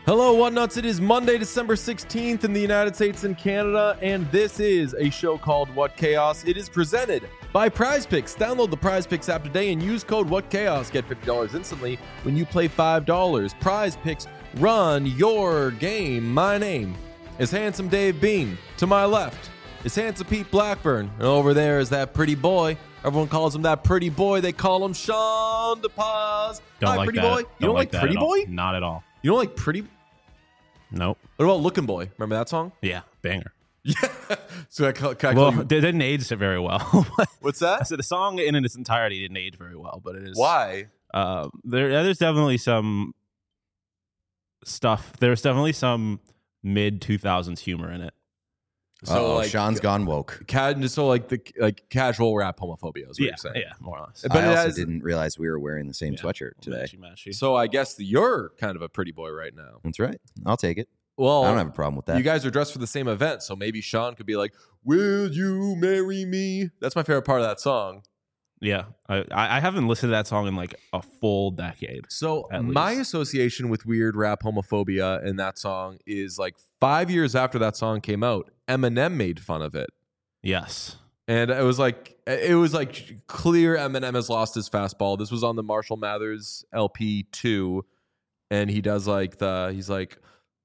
Hello, Whatnuts. It is Monday, December 16th in the United States and Canada, and this is a show called What Chaos. It is presented by Prize Picks. Download the Prize Picks app today and use code What Chaos. Get $50 instantly when you play $5. Prize Picks, run your game. My name is Handsome Dave Bean. To my left is Handsome Pete Blackburn, and over there is that pretty boy. Everyone calls him that pretty boy. They call him Sean DePaz. Don't Hi, like pretty that. boy. You don't like that pretty at all. boy? Not at all. You don't like pretty? Nope. What about Looking Boy? Remember that song? Yeah, banger. Yeah. So I call Well, you. it didn't age very well. What's that? So the song in its entirety didn't age very well, but it is. Why? There's definitely some stuff. There's definitely some mid 2000s humor in it. So like Sean's gone woke. the casual rap homophobia is what you're saying. Yeah, more or less. But I it also has- didn't realize we were wearing the same Yeah. sweatshirt today. Matchy. So I guess you're kind of a pretty boy right now. That's right. I'll take it. Well, I don't have a problem with that. you guys are dressed for the same event, so maybe Sean could be like, "Will you marry me?" That's my favorite part of that song. Yeah, I haven't listened to that song in like a full decade. So At my least. association with weird rap homophobia in that song is like 5 years after that song came out, Eminem made fun of it. Yes. And it was like clear Eminem has lost his fastball. This was on the Marshall Mathers LP 2, and he does he's like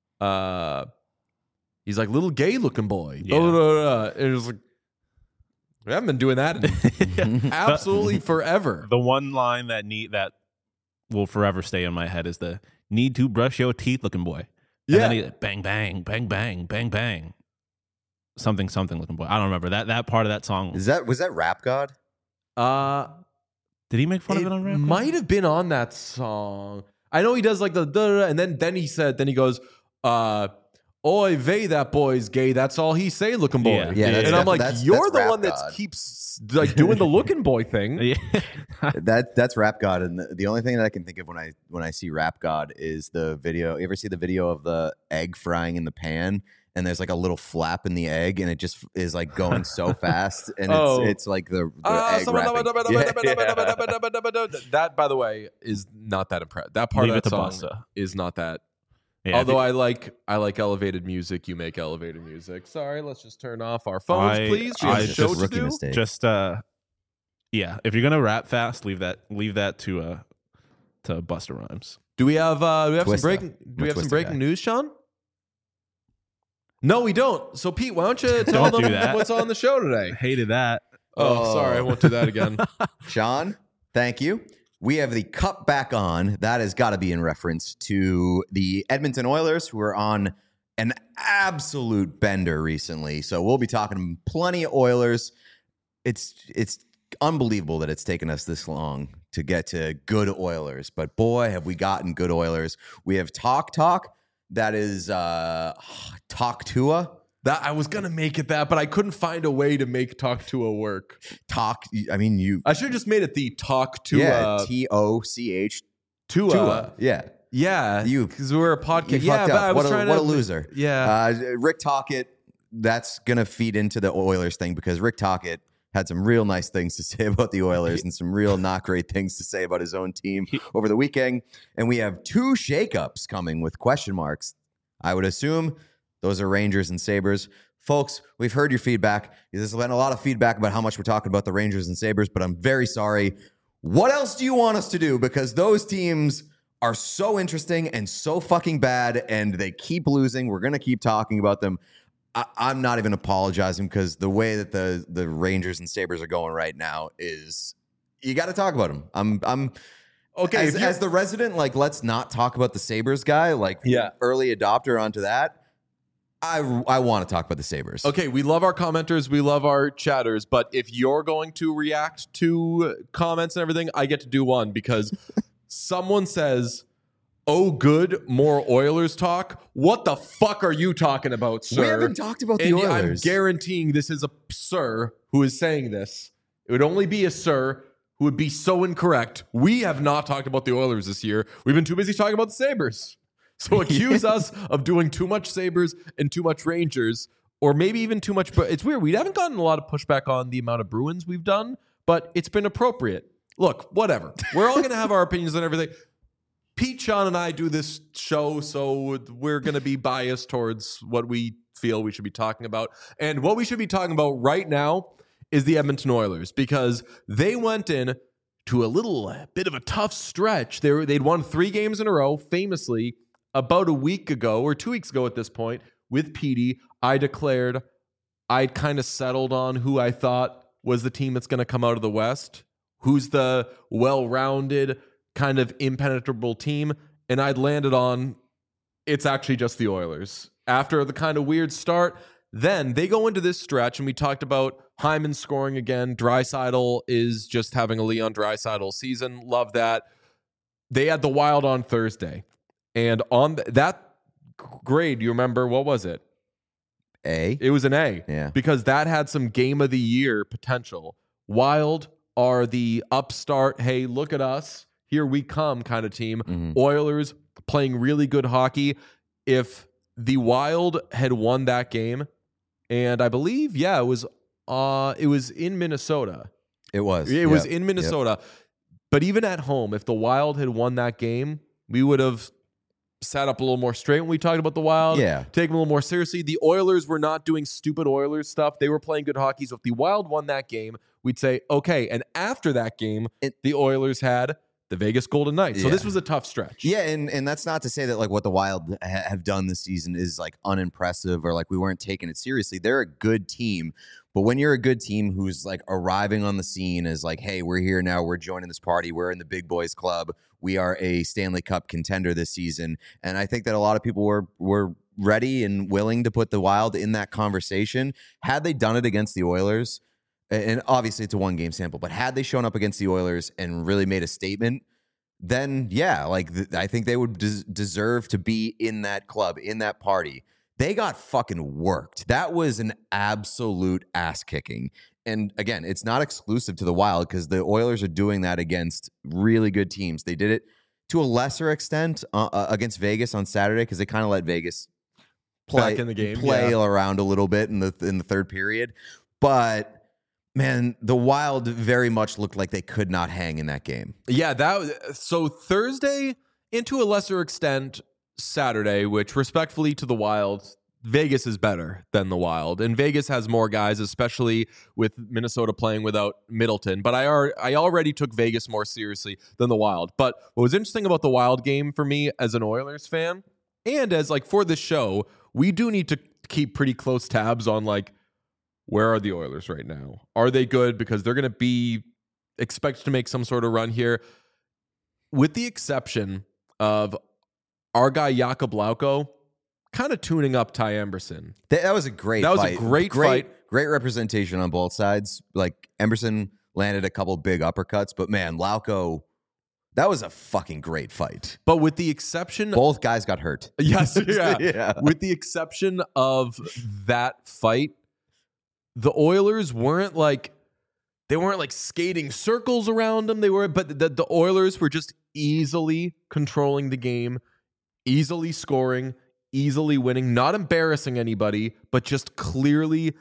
little gay looking boy. Yeah. And it was like, we haven't been doing that in absolutely forever. The one line that will forever stay in my head is the "need to brush your teeth" looking boy. And then he bang bang bang bang bang bang something looking boy. I don't remember that part of that song. was that Rap God? Did he make fun of it on rap? Might have been on that song. I know he does like the da-da-da, and then he goes, "Oy vey, that boy's gay. That's all he say, looking boy." Yeah. Yeah, that's and I'm like, that's you're the Rap one that God. keeps like doing the looking boy thing. Yeah. That's Rap God, and the only thing that I can think of when I see Rap God is the video. You ever see the video of the egg frying in the pan? And there's like a little flap in the egg, and it just is like going so fast, and it's like the egg wrapping. That, by the way, is not that impressive. That part Leave of it that to song Busta. is not that. Yeah, Although I like elevated music, you make elevated music. Sorry, let's just turn off our phones, please. We have a it's show just to rookie do. mistake. just yeah. If you're gonna rap fast, leave that to Busta Rhymes. Do we have some Twista. breaking? Do we have some Twista breaking guy. news, Sean? No, we don't. So, Pete, why don't you tell Don't do them that. what's on the show today? Hated that. Oh, sorry, I won't do that again. Sean, thank you. We have the cup back on. That has got to be in reference to the Edmonton Oilers, who are on an absolute bender recently. So we'll be talking plenty of Oilers. It's unbelievable that it's taken us this long to get to good Oilers. But boy, have we gotten good Oilers. We have Talk. That is Talk Tua. That I was gonna make it that, but I couldn't find a way to make Talk to a work. Talk. I mean, you. I should have just made it the Talk to Yeah, TOCH. Tua. Yeah. Yeah, You- because we're a podcast. You Yeah, fucked but up. I was What trying a to. loser. Yeah. Rick Tocchet, that's going to feed into the Oilers thing because Rick Tocchet had some real nice things to say about the Oilers and some real not great things to say about his own team over the weekend. And we have 2 shakeups coming with question marks. I would assume those are Rangers and Sabres. Folks, we've heard your feedback. There's been a lot of feedback about how much we're talking about the Rangers and Sabres, but I'm very sorry. What else do you want us to do? Because those teams are so interesting and so fucking bad, and they keep losing. We're going to keep talking about them. I'm not even apologizing because the way that the Rangers and Sabres are going right now is you got to talk about them. I'm Okay, as the resident, like, let's not talk about the Sabres guy, like, Yeah. early adopter onto that. I want to talk about the Sabres. Okay, we love our commenters, we love our chatters, but if you're going to react to comments and everything, I get to do one because someone says, "Oh, good, more Oilers talk." What the fuck are you talking about, sir? We haven't talked about the And Oilers. I'm guaranteeing this is a sir who is saying this. It would only be a sir who would be so incorrect. We have not talked about the Oilers this year. We've been too busy talking about the Sabres. So accuse us of doing too much Sabres and too much Rangers, or maybe even too much. But it's weird. We haven't gotten a lot of pushback on the amount of Bruins we've done, but it's been appropriate. Look, whatever. We're all going to have our opinions on everything. Pete, Sean, and I do this show, so we're going to be biased towards what we feel we should be talking about. And what we should be talking about right now is the Edmonton Oilers, because they went in to a little bit of a tough stretch. They'd won 3 games in a row, famously, about a week ago, or 2 weeks ago at this point, with Petey. I declared I'd kind of settled on who I thought was the team that's going to come out of the West, who's the well-rounded, kind of impenetrable team, and I'd landed on it's actually just the Oilers. After the kind of weird start, then they go into this stretch, and we talked about Hyman scoring again. Draisaitl is just having a Leon Draisaitl season. Love that. They had the Wild on Thursday, and on that grade, you remember, what was it? A? It was an A. Yeah. Because that had some game of the year potential. Wild are the upstart, hey, look at us, here we come kind of team. Mm-hmm. Oilers playing really good hockey. If the Wild had won that game, and I believe, it was in Minnesota. It was. It was in Minnesota. Yep. But even at home, if the Wild had won that game, we would have sat up a little more straight when we talked about the Wild. Yeah. Take them a little more seriously. The Oilers were not doing stupid Oilers stuff. They were playing good hockey. So if the Wild won that game, we'd say, okay. And after that game, the Oilers had the Vegas Golden Knights. So this was a tough stretch. Yeah, and that's not to say that like what the Wild have done this season is like unimpressive or like we weren't taking it seriously. They're a good team. But when you're a good team who's like arriving on the scene as like, hey, we're here now, we're joining this party, we're in the big boys club, we are a Stanley Cup contender this season. And I think that a lot of people were ready and willing to put the Wild in that conversation. Had they done it against the Oilers, and obviously it's a 1-game sample, but had they shown up against the Oilers and really made a statement, then yeah, like I think they would deserve to be in that club, in that party. They got fucking worked. That was an absolute ass kicking. And again, it's not exclusive to the Wild because the Oilers are doing that against really good teams. They did it to a lesser extent against Vegas on Saturday because they kind of let Vegas play back in the game, play around a little bit in the third period. But man, the Wild very much looked like they could not hang in that game. Yeah, so Thursday, and to a lesser extent Saturday, which respectfully to the Wild, Vegas is better than the Wild, and Vegas has more guys, especially with Minnesota playing without Middleton. But I already took Vegas more seriously than the Wild. But what was interesting about the Wild game for me as an Oilers fan, and as like for this show, we do need to keep pretty close tabs on like, where are the Oilers right now? Are they good? Because they're going to be expected to make some sort of run here. With the exception of our guy Jakub Lauko kind of tuning up Ty Emberson. That was a great fight. That was a great fight. Great representation on both sides. Like Emberson landed a couple big uppercuts, but man, Lauko, that was a fucking great fight. But with the exception... Both guys got hurt. Yes, yeah. With the exception of that fight, the Oilers weren't like skating circles around them. But the Oilers were just easily controlling the game, easily scoring, easily winning, not embarrassing anybody, but just clearly,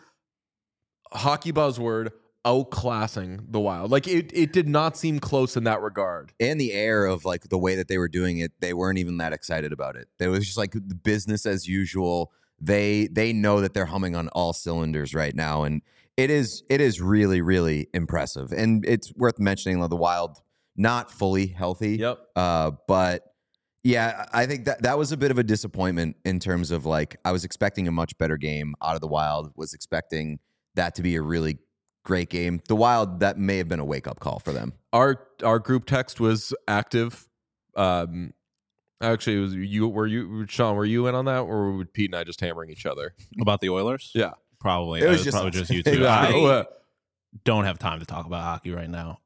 hockey buzzword, outclassing the Wild. Like it did not seem close in that regard. And the air of like the way that they were doing it, they weren't even that excited about it. It was just like business as usual. They know that they're humming on all cylinders right now, and it is really, really impressive. And it's worth mentioning the Wild not fully healthy. Yep. But yeah, I think that was a bit of a disappointment in terms of like I was expecting a much better game out of the Wild. Was expecting that to be a really great game. The Wild, that may have been a wake up call for them. Our group text was active. Actually, it was you, Sean, were you in on that, or were Pete and I just hammering each other? About the Oilers? Yeah. Probably. It was probably just you two. Yeah. I don't have time to talk about hockey right now.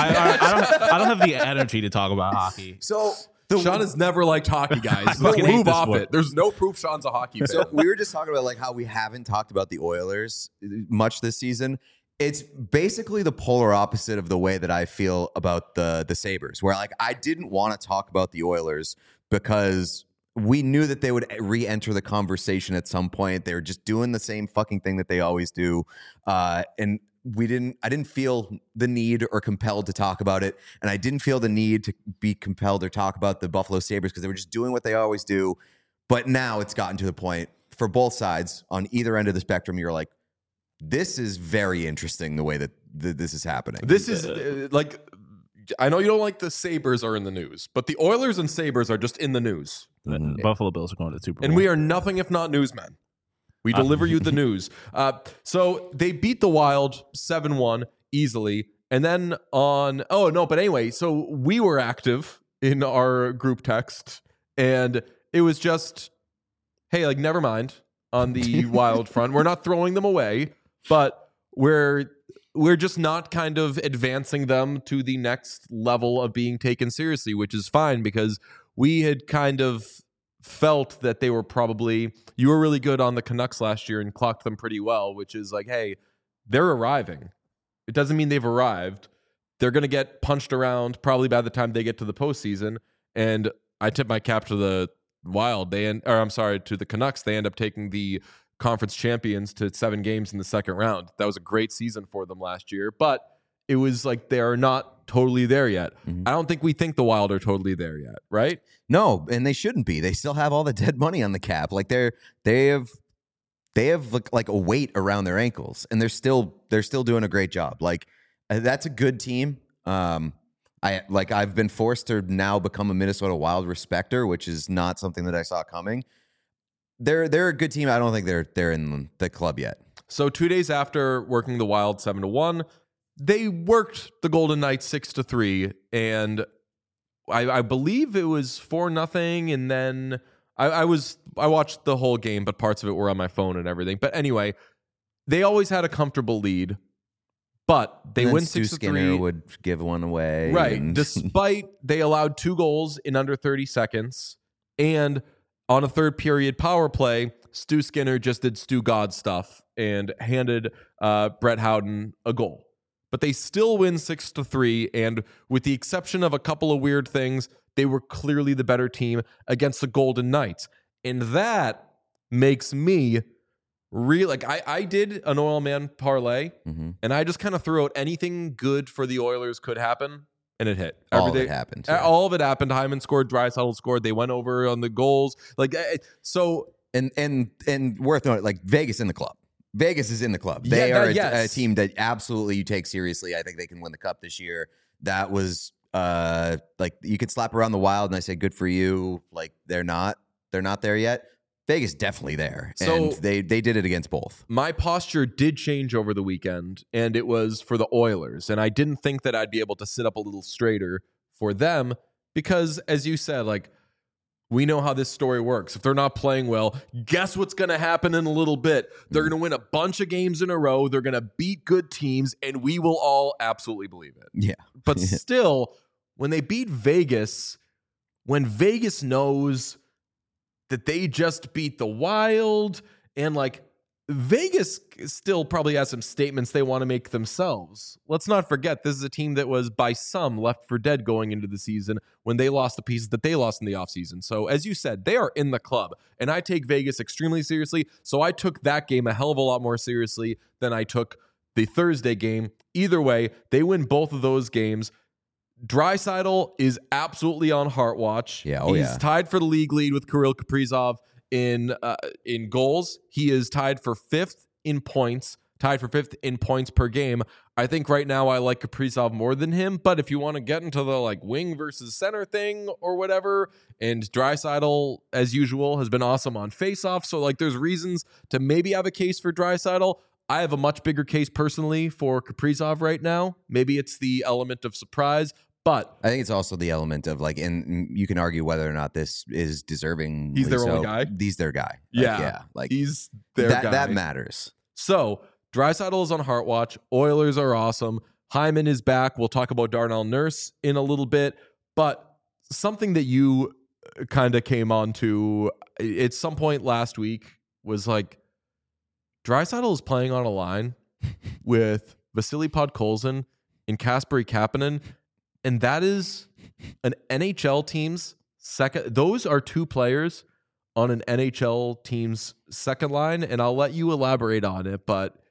I don't have the energy to talk about hockey. So Sean has never liked hockey, guys. fucking hate Move this off sport. it. There's no proof Sean's a hockey fan. So we were just talking about like how we haven't talked about the Oilers much this season. It's basically the polar opposite of the way that I feel about the Sabres, where like I didn't want to talk about the Oilers because we knew that they would re-enter the conversation at some point. They were just doing the same fucking thing that they always do. And I didn't feel the need or compelled to talk about it. And I didn't feel the need to be compelled or talk about the Buffalo Sabres because they were just doing what they always do. But now it's gotten to the point for both sides on either end of the spectrum. You're like, this is very interesting the way that this is happening. This is like, I know you don't like the Sabres are in the news, but the Oilers and Sabres are just in the news. Buffalo Bills are going to the Super Bowl. And we are nothing if not newsmen. We deliver you the news. So they beat the Wild 7-1 easily. And then but anyway, so we were active in our group text, and it was just, hey, like, never mind on the Wild front. We're not throwing them away, but we're just not kind of advancing them to the next level of being taken seriously, which is fine because we had kind of felt that they were probably, you were really good on the Canucks last year and clocked them pretty well, which is like, hey, they're arriving. It doesn't mean they've arrived. They're going to get punched around probably by the time they get to the postseason. And I tip my cap to the Wild. To the Canucks. They end up taking the conference champions to 7 games in the second round. That was a great season for them last year, but it was like they are not totally there yet. Mm-hmm. I don't think we think the Wild are totally there yet, right? No, and they shouldn't be. They still have all the dead money on the cap. Like they have like a weight around their ankles, and they're still doing a great job. Like that's a good team. I've been forced to now become a Minnesota Wild respecter, which is not something that I saw coming. They're a good team. I don't think they're in the club yet. So 2 days after working the Wild 7-1, they worked the Golden Knights 6-3, and I believe it was 4-0. And then I watched the whole game, but parts of it were on my phone and everything. But anyway, they always had a comfortable lead, but they win 6-3. Skinner would give one away, right? Despite they allowed 2 goals in under 30 seconds, and on a third period power play, Stu Skinner just did Stu God stuff and handed Brett Howden a goal. But they still win 6-3, and with the exception of a couple of weird things, they were clearly the better team against the Golden Knights. And that makes me I did an Oil Man parlay, and I just kind of threw out anything good for the Oilers could happen, and it hit. All of it happened. Yeah. All of it happened. Hyman scored, Draisaitl scored. They went over on the goals. And worth noting, like Vegas in the club. Vegas is in the club. They are a team that absolutely you take seriously. I think they can win the cup this year. That was you could slap around the Wild, and I say good for you. Like they're not there yet. Vegas definitely there, and they did it against both. My posture did change over the weekend, and it was for the Oilers. And I didn't think that I'd be able to sit up a little straighter for them because, as you said, like, we know how this story works. If they're not playing well, guess what's going to happen in a little bit? They're going to win a bunch of games in a row. They're going to beat good teams, and we will all absolutely believe it. Yeah. But still, when they beat Vegas, when Vegas knows that they just beat the Wild, and like Vegas still probably has some statements they want to make themselves. Let's not forget, this is a team that was by some left for dead going into the season when they lost the pieces that they lost in the offseason. So as you said, they are in the club, and I take Vegas extremely seriously. So I took that game a hell of a lot more seriously than I took the Thursday game. Either way, they win both of those games. Draisaitl is absolutely on heart watch. Yeah, he's tied for the league lead with Kirill Kaprizov in goals. He is tied for 5th in points, tied for 5th in points per game. I think right now I like Kaprizov more than him, but if you want to get into the like wing versus center thing or whatever, and Draisaitl, as usual, has been awesome on faceoff, so like there's reasons to maybe have a case for Draisaitl. I have a much bigger case personally for Kaprizov right now. Maybe it's the element of surprise, but I think it's also the element of like, and you can argue whether or not this is deserving. He's their only guy. He's their guy. Like he's their guy. That matters. So Draisaitl is on heart watch. Oilers are awesome. Hyman is back. We'll talk about Darnell Nurse in a little bit, but something that you kind of came on to at some point last week was like, Draisaitl is playing on a line with Vasily Podkolzin and Kasperi Kapanen, and that is an NHL team's second. Those are 2 players on an NHL team's second line, and I'll let you elaborate on it, but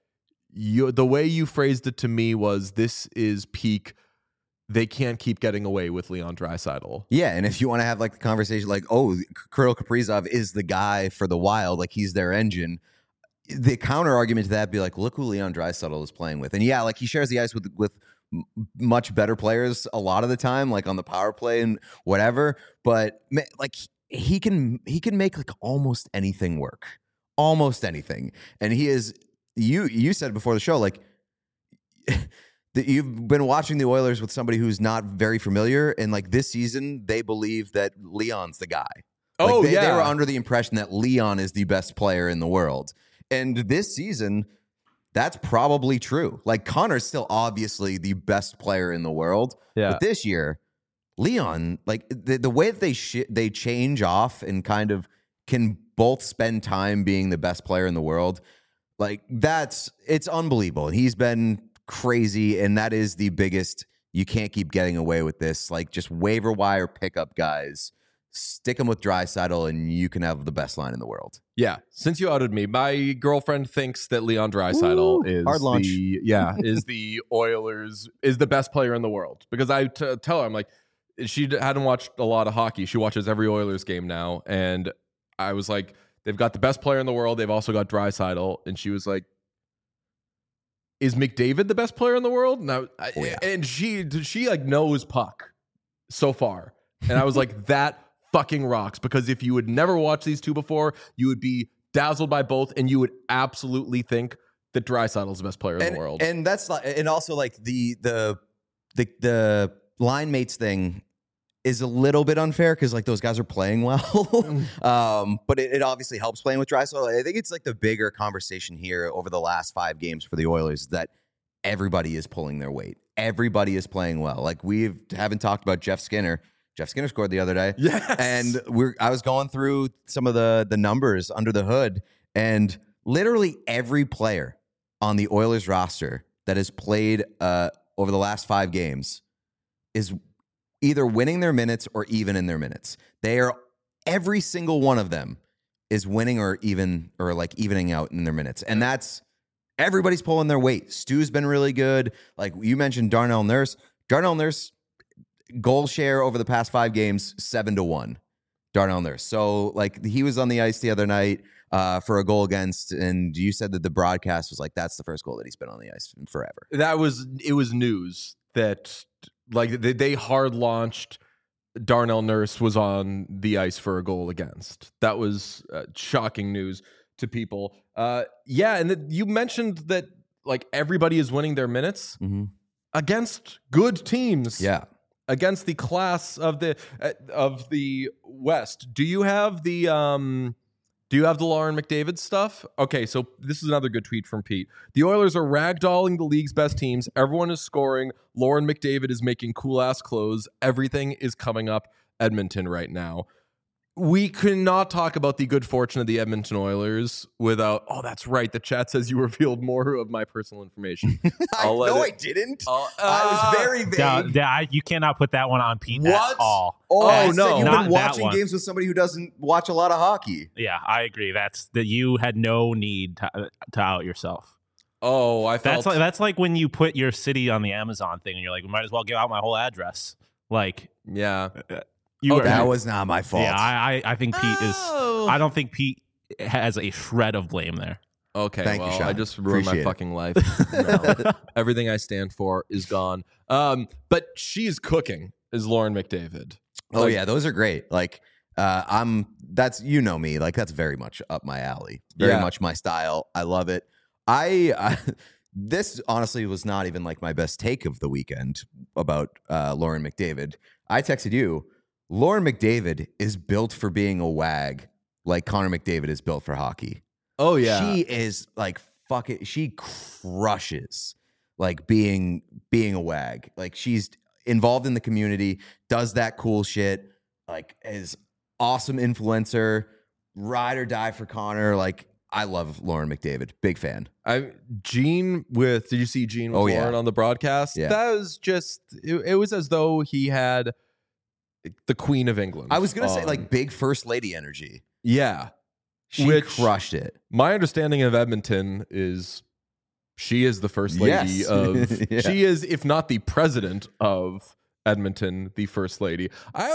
the way you phrased it to me was this is peak. They can't keep getting away with Leon Draisaitl. Yeah, and if you want to have like the conversation like, oh, Kirill Kaprizov is the guy for the Wild, like he's their engine. The counter argument to that would be like, look who Leon Draisaitl is playing with. And yeah, like he shares the ice with much better players a lot of the time, like on the power play and whatever. But like he can make like almost anything work. Almost anything. And he is, you said before the show, like that you've been watching the Oilers with somebody who's not very familiar, and like this season they believe that Leon's the guy. Like they were under the impression that Leon is the best player in the world. And this season, that's probably true. Like Connor's still obviously the best player in the world. Yeah. But this year, Leon, like the way that they change off and kind of can both spend time being the best player in the world, like it's unbelievable. And he's been crazy, and that is the biggest. You can't keep getting away with this. Like just waiver wire pickup guys. Stick them with Draisaitl, and you can have the best line in the world. Yeah. Since you outed me, my girlfriend thinks that Leon Draisaitl is hard launch. Is the Oilers is the best player in the world. Because I tell her, I'm like, she hadn't watched a lot of hockey. She watches every Oilers game now, and I was like, they've got the best player in the world. They've also got Draisaitl, and she was like, is McDavid the best player in the world? And she like knows puck so far, and I was like that. Fucking rocks, because if you would never watch these two before, you would be dazzled by both, and you would absolutely think that Draisaitl is the best player in the world. And that's like, and also like the line mates thing is a little bit unfair because like those guys are playing well, but it obviously helps playing with Draisaitl. I think it's like the bigger conversation here over the last 5 games for the Oilers is that everybody is pulling their weight. Everybody is playing well. Like we haven't talked about Jeff Skinner. Jeff Skinner scored the other day. Yes. And I was going through some of the numbers under the hood, and literally every player on the Oilers roster that has played over the last 5 games is either winning their minutes or even in their minutes. Every single one of them is winning or evening out in their minutes. And that's everybody's pulling their weight. Stu's been really good. Like you mentioned Darnell Nurse. Darnell Nurse goal share over the past 5 games, 7-1. Darnell Nurse. So like he was on the ice the other night for a goal against, and you said that the broadcast was like, that's the first goal that he's been on the ice in forever. It was news that like they hard launched Darnell Nurse was on the ice for a goal against. That was shocking news to people. And you mentioned that like everybody is winning their minutes against good teams. Yeah. Against the class of the West. Do you have the Lauren McDavid stuff? Okay, so this is another good tweet from Pete. The Oilers are ragdolling the league's best teams. Everyone is scoring. Lauren McDavid is making cool ass clothes. Everything is coming up Edmonton right now. We cannot talk about the good fortune of the Edmonton Oilers without. Oh, that's right. The chat says you revealed more of my personal information. I didn't. I was very vague. You cannot put that one on Pete at all. Oh no! You've been watching games with somebody who doesn't watch a lot of hockey. Yeah, I agree. That's that you had no need to out yourself. Oh, that's like when you put your city on the Amazon thing, and you're like, we might as well give out my whole address. Like, yeah. That was not my fault. Yeah, I think Pete is. I don't think Pete has a shred of blame there. Okay, Thank you, Sean. I just ruined my fucking life. No. Everything I stand for is gone. But she's cooking is Lauren McDavid. Oh yeah, those are great. Like that's me. Like that's very much up my alley. Very much my style. I love it. This honestly was not even like my best take of the weekend about Lauren McDavid. I texted you. Lauren McDavid is built for being a wag like Connor McDavid is built for hockey. Oh, yeah. She is like, fuck it. She crushes like being a wag. Like she's involved in the community, does that cool shit, like is awesome influencer, ride or die for Connor. Like I love Lauren McDavid. Big fan. Did you see Gene with Lauren on the broadcast? Yeah. That was just, it was as though he had the Queen of England. I was going to say like big first lady energy. Yeah. She crushed it. My understanding of Edmonton is She is the first lady Yes. of. Yeah. She is, if not the president of Edmonton, the first lady.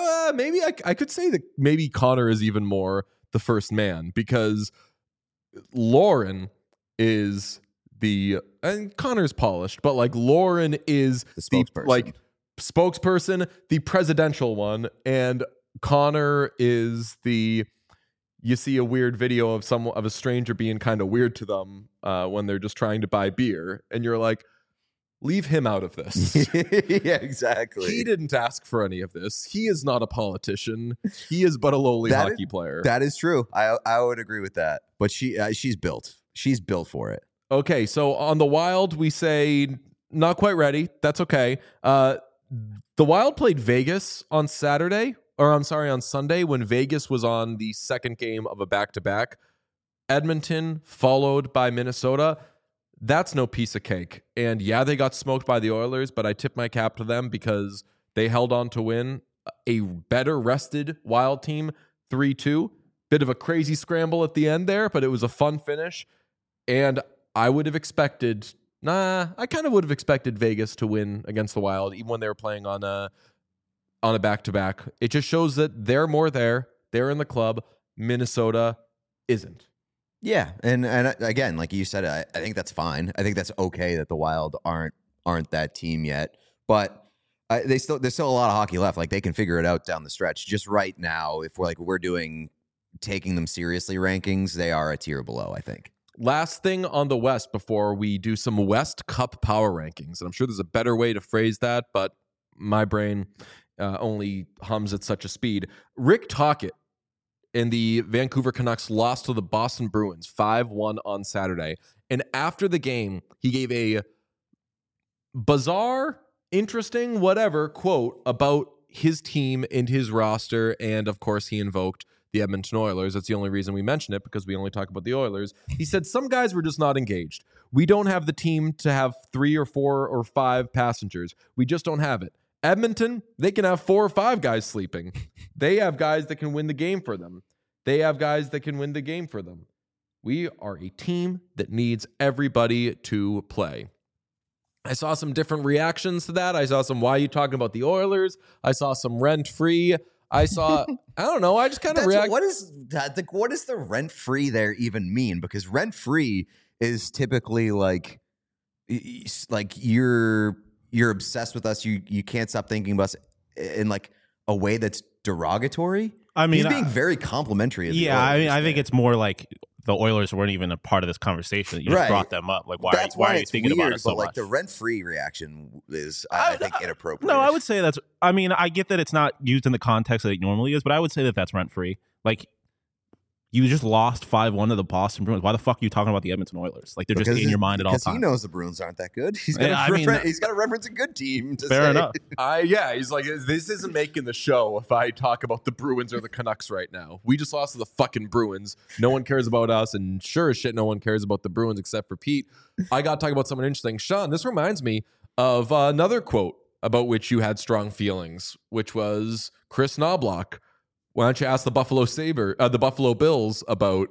I could say that maybe Connor is even more the first man, because Lauren is and Connor's polished, but like Lauren is The spokesperson. like spokesperson, the presidential one, and Connor is the. You see a weird video of a stranger being kind of weird to them when they're just trying to buy beer, and you're like, leave him out of this. Yeah, exactly. He didn't ask for any of this. He is not a politician. He is but a lowly hockey player. That is true. I would agree with that. But she's built. She's built for it. Okay, so on the Wild, we say not quite ready. That's okay. The Wild played Vegas on Saturday. Or I'm sorry, on Sunday, when Vegas was on the second game of a back-to-back. Edmonton followed by Minnesota. That's no piece of cake. And yeah, they got smoked by the Oilers, but I tip my cap to them because they held on to win a better rested Wild team 3-2. Bit of a crazy scramble at the end there, but it was a fun finish. And I would have expected, I kind of would have expected Vegas to win against the Wild, even when they were playing on a back-to-back. It just shows that they're more there. They're in the club. Minnesota isn't. Yeah, and again, like you said, I think that's fine. I think that's okay that the Wild aren't that team yet. But there's still a lot of hockey left. Like they can figure it out down the stretch. Just right now, if we're doing taking them seriously rankings, they are a tier below, I think. Last thing on the West before we do some West Cup power rankings, and I'm sure there's a better way to phrase that, but my brain only hums at such a speed. Rick Tocchet and the Vancouver Canucks lost to the Boston Bruins 5-1 on Saturday. And after the game, he gave a bizarre, interesting, whatever quote about his team and his roster. And of course, he invoked the Edmonton Oilers. That's the only reason we mention it, because we only talk about the Oilers. He said some guys were just not engaged. We don't have the team to have 3 or 4 or 5 passengers. We just don't have it. Edmonton, they can have 4 or 5 guys sleeping. They have guys that can win the game for them. We are a team that needs everybody to play. I saw some different reactions to that. I saw some, why are you talking about the Oilers? I saw some rent-free. I saw, I don't know. I just kind of react. What is that? Like, what does the rent-free there even mean? Because rent-free is typically like you're obsessed with us. You can't stop thinking about us in like a way that's derogatory. I mean, he's being very complimentary. Of yeah, I mean, I think it's more like the Oilers weren't even a part of this conversation. You just brought them up. Like, why are you thinking about it so much? Like the rent-free reaction is, I think, inappropriate. No, I would say that's. I mean, I get that it's not used in the context that it normally is, but I would say that that's rent-free. Like, you just lost 5-1 to the Boston Bruins. Why the fuck are you talking about the Edmonton Oilers? Like, they're just in your mind at all times. Because he knows the Bruins aren't that good. He's got to reference a good team. Fair enough. He's like, this isn't making the show if I talk about the Bruins or the Canucks right now. We just lost to the fucking Bruins. No one cares about us, and sure as shit, no one cares about the Bruins except for Pete. I got to talk about something interesting. Sean, this reminds me of another quote about which you had strong feelings, which was Chris Knobloch. Why don't you ask the Buffalo Bills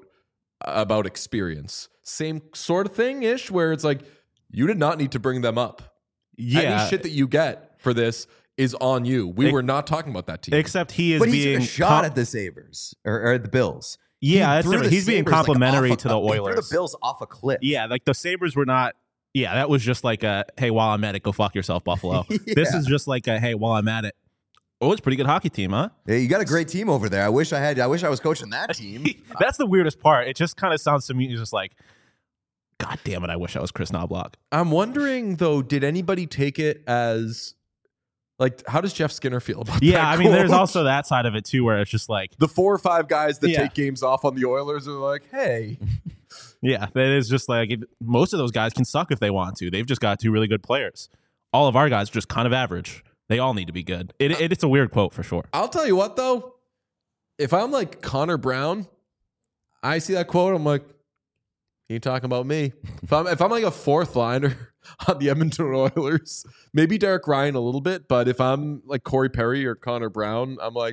about experience? Same sort of thing-ish, where it's like, you did not need to bring them up. Yeah. Any shit that you get for this is on you. We were not talking about that team. Except he is but being... But he took a shot at the Sabres, or the Bills. Yeah, that's different. He's being complimentary to the Oilers. He threw the Bills off a cliff. Yeah, like the Sabres were not... Yeah, that was just like a, hey, while I'm at it, go fuck yourself, Buffalo. Yeah. This is just like a, hey, while I'm at it. Oh, it's a pretty good hockey team, huh? Yeah, you got a great team over there. I wish I was coaching that team. That's the weirdest part. It just kind of sounds to me just like, God damn it, I wish I was Chris Knobloch. I'm wondering, though, did anybody take it as, like, how does Jeff Skinner feel about that? Yeah, I mean, there's also that side of it, too, where it's just like... The 4 or 5 guys that take games off on the Oilers are like, hey... Yeah, that is just like, most of those guys can suck if they want to. They've just got 2 really good players. All of our guys are just kind of average. They all need to be good. It's a weird quote for sure. I'll tell you what, though. If I'm like Connor Brown, I see that quote, I'm like, you talking about me? If I'm like a 4th liner on the Edmonton Oilers, maybe Derek Ryan a little bit, but if I'm like Corey Perry or Connor Brown, I'm like,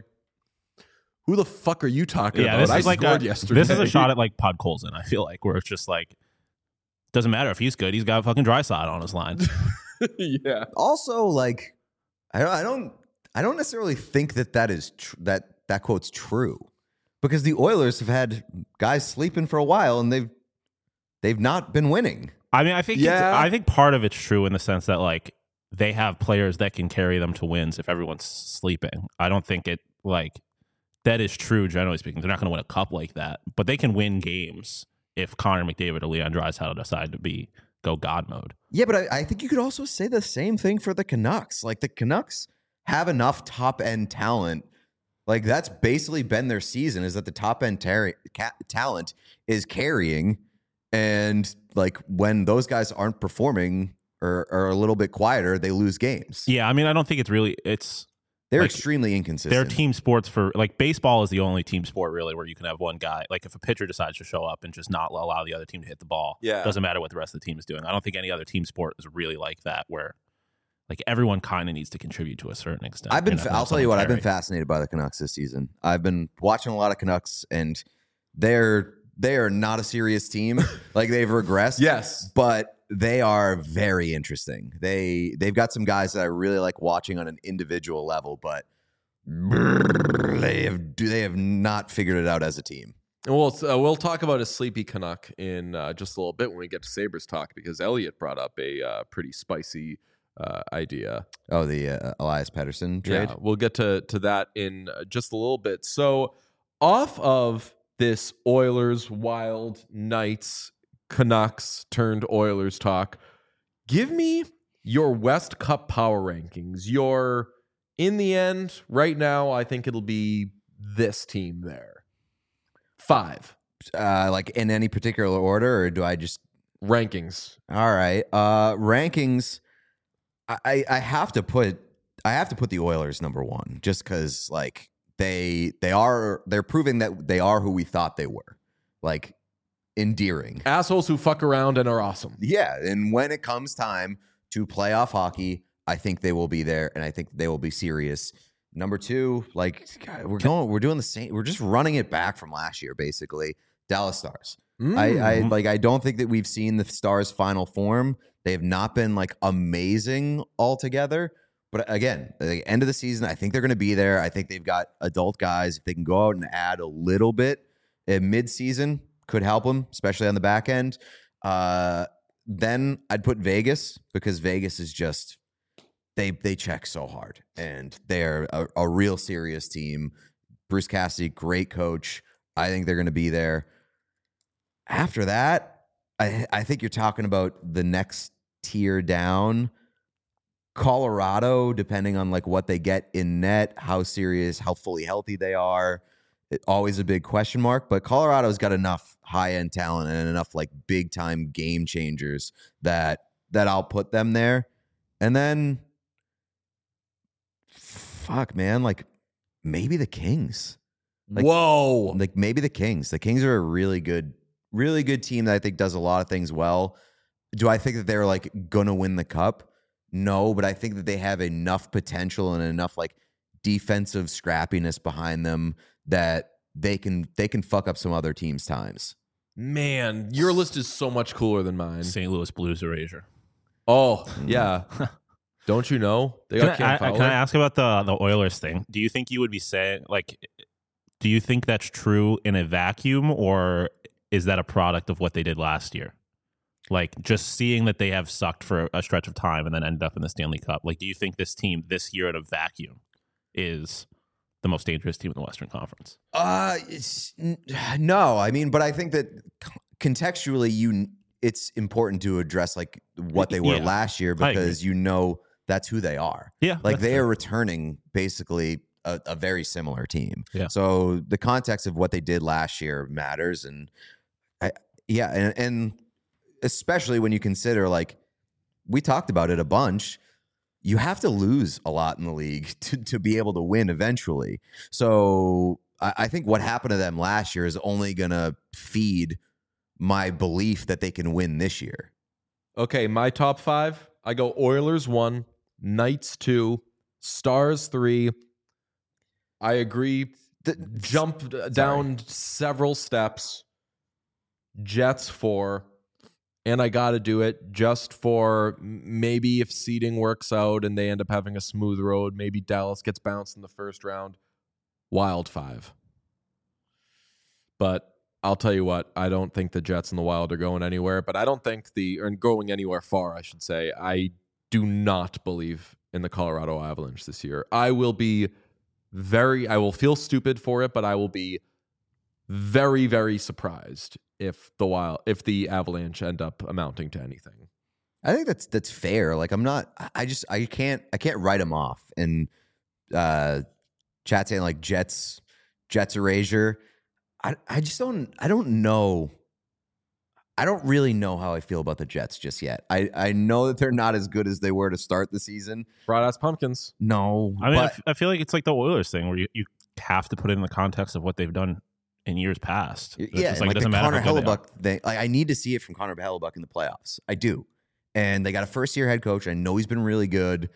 who the fuck are you talking about? This is I like scored yesterday. This is a shot at like Podkolzin, I feel like, where it's just like, Doesn't matter if he's good. He's got fucking Draisaitl on his line. Yeah. Also, like, I don't necessarily think that is that quote's true, because the Oilers have had guys sleeping for a while and they've not been winning. I mean, I think Yeah. I think part of it's true in the sense that like they have players that can carry them to wins if everyone's sleeping. I don't think it like that is true generally speaking. They're not going to win a cup like that, but they can win games if Connor McDavid or Leon Draisaitl decide to go God mode. Yeah, but I think you could also say the same thing for the Canucks. Like, the Canucks have enough top end talent. Like, that's basically been their season, is that the top end talent is carrying. And like, when those guys aren't performing or are a little bit quieter, they lose games. Yeah, I mean, I don't think They're like, extremely inconsistent. they're team sports for like baseball is the only team sport really where you can have one guy. Like if a pitcher decides to show up and just not allow the other team to hit the ball, Yeah. doesn't matter what the rest of the team is doing. I don't think any other team sport is really like that where like everyone kind of needs to contribute to a certain extent. I'll tell you what, I've been fascinated by the Canucks this season. I've been watching a lot of Canucks, and they are not a serious team. Like, they've regressed. Yes. But they are very interesting. They've got some guys that I really like watching on an individual level, but they have not figured it out as a team. And we'll talk about a sleepy Canuck in just a little bit when we get to Sabres talk, because Elliot brought up a pretty spicy idea. Oh, the Elias Pettersson trade? Yeah, we'll get to that in just a little bit. So off of this Oilers, Wild, Knights, Canucks turned Oilers talk, give me your West Cup power rankings. In the end, right now, I think it'll be this team there. 5. Like, in any particular order, or do I just... Rankings. All right. Rankings. I have to put the Oilers number 1, just because like they're proving that they are who we thought they were. Like, endearing Assholes who fuck around and are awesome. Yeah, and when it comes time to playoff hockey, I think they will be there, and I think they will be serious. Number 2, like, God, we're doing the same. We're just running it back from last year, basically. Dallas Stars. I don't think that we've seen the Stars' final form. They have not been like amazing altogether. But again, at the end of the season, I think they're going to be there. I think they've got adult guys. If they can go out and add a little bit in mid-season, could help them, especially on the back end. Then I'd put Vegas, because Vegas is just they check so hard, and they're a real serious team. Bruce Cassidy, great coach. I think they're going to be there. After that, I think you're talking about the next tier down. Colorado, depending on like what they get in net, how serious, how fully healthy they are, always a big question mark. But Colorado's got enough high-end talent and enough like big-time game changers that I'll put them there. And then, fuck, man, like maybe the Kings. Like, whoa. Like maybe the Kings. The Kings are a really good team that I think does a lot of things well. Do I think that they're like gonna win the cup? No, but I think that they have enough potential and enough like defensive scrappiness behind them that they can fuck up some other teams' times. Man, your list is so much cooler than mine. St. Louis Blues erasure. Oh, yeah. Don't you know? They got Cam Fowler. Can I ask about the Oilers thing? Do you think you would be saying, like, do you think that's true in a vacuum, or is that a product of what they did last year? Like, just seeing that they have sucked for a stretch of time and then ended up in the Stanley Cup. Like, do you think this team this year in a vacuum is the most dangerous team in the Western Conference? No. I mean, but I think that contextually, it's important to address like what they were last year, because you know that's who they are. Yeah, like they are returning basically a very similar team. Yeah. So the context of what they did last year matters, and and especially when you consider, like, we talked about it a bunch, you have to lose a lot in the league to be able to win eventually. So I think what happened to them last year is only going to feed my belief that they can win this year. Okay, my top 5, I go Oilers 1, Knights 2, Stars 3. I agree. Jump down several steps. Jets 4. and I got to do it just for maybe if seeding works out and they end up having a smooth road, maybe Dallas gets bounced in the first round. Wild 5. But I'll tell you what, I don't think the Jets and the Wild are going anywhere, but I don't think or going anywhere far, I should say. I do not believe in the Colorado Avalanche this year. I will feel stupid for it, but I will be very, very surprised if the Avalanche end up amounting to anything. I think that's fair. Like I can't write them off. And chat saying like Jets erasure. I don't know. I don't really know how I feel about the Jets just yet. I know that they're not as good as they were to start the season. Fried ass pumpkins. No. I mean, I feel like it's like the Oilers thing where you have to put it in the context of what they've done in years past. Yeah, it's like, like it doesn't the matter Connor how good they are. Hellebuck thing. Like I need to see it from Connor Hellebuck in the playoffs. I do. And they got a first-year head coach. I know he's been really good.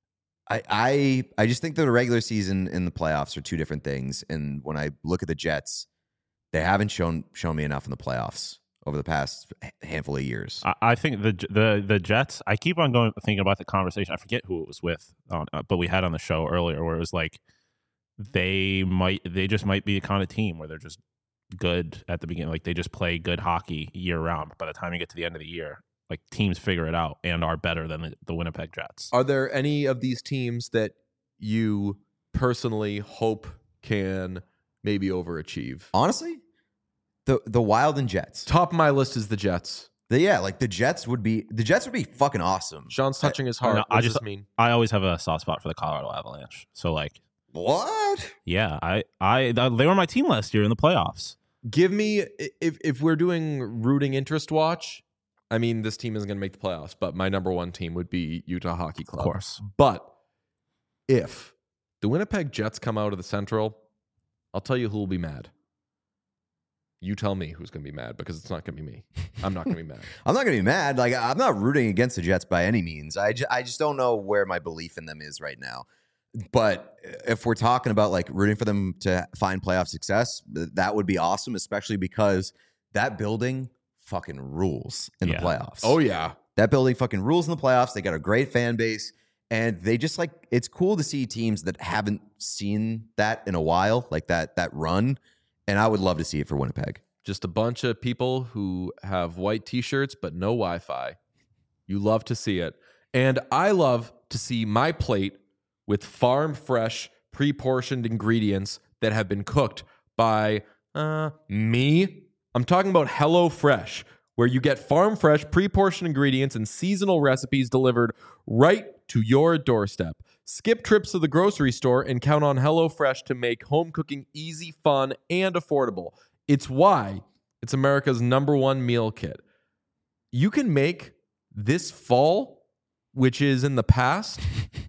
I just think that the regular season and the playoffs are two different things. And when I look at the Jets, they haven't shown me enough in the playoffs over the past handful of years. I think the Jets, I keep on thinking about the conversation. I forget who it was with, but we had on the show earlier where it was like they just might be a kind of team where they're just good at the beginning. Like they just play good hockey year round. By the time you get to the end of the year, like teams figure it out and are better than the Winnipeg Jets. Are there any of these teams that you personally hope can maybe overachieve? Honestly, the Wild and Jets. Top of my list is the Jets. The Jets would be fucking awesome. Sean's touching his heart. No, What does this mean? I always have a soft spot for the Colorado Avalanche. So like, what? yeah, they were my team last year in the playoffs. Give me, if we're doing rooting interest watch, I mean, this team isn't going to make the playoffs, but my number one team would be Utah Hockey Club. Of course. But if the Winnipeg Jets come out of the Central, I'll tell you who will be mad. You tell me who's going to be mad, because it's not going to be me. I'm not going to be mad. I'm not going to be mad. Like I'm not rooting against the Jets by any means. I just don't know where my belief in them is right now. But if we're talking about like rooting for them to find playoff success, that would be awesome, especially because that building fucking rules in the playoffs. Oh, yeah. That building fucking rules in the playoffs. They got a great fan base. And they just like, it's cool to see teams that haven't seen that in a while, like that run. And I would love to see it for Winnipeg. Just a bunch of people who have white T-shirts but no Wi-Fi. You love to see it. And I love to see my plate with farm fresh, pre-portioned ingredients that have been cooked by me. I'm talking about HelloFresh, where you get farm fresh, pre-portioned ingredients and seasonal recipes delivered right to your doorstep. Skip trips to the grocery store and count on HelloFresh to make home cooking easy, fun, and affordable. It's why it's America's #1 meal kit. You can make this fall, which is in the past,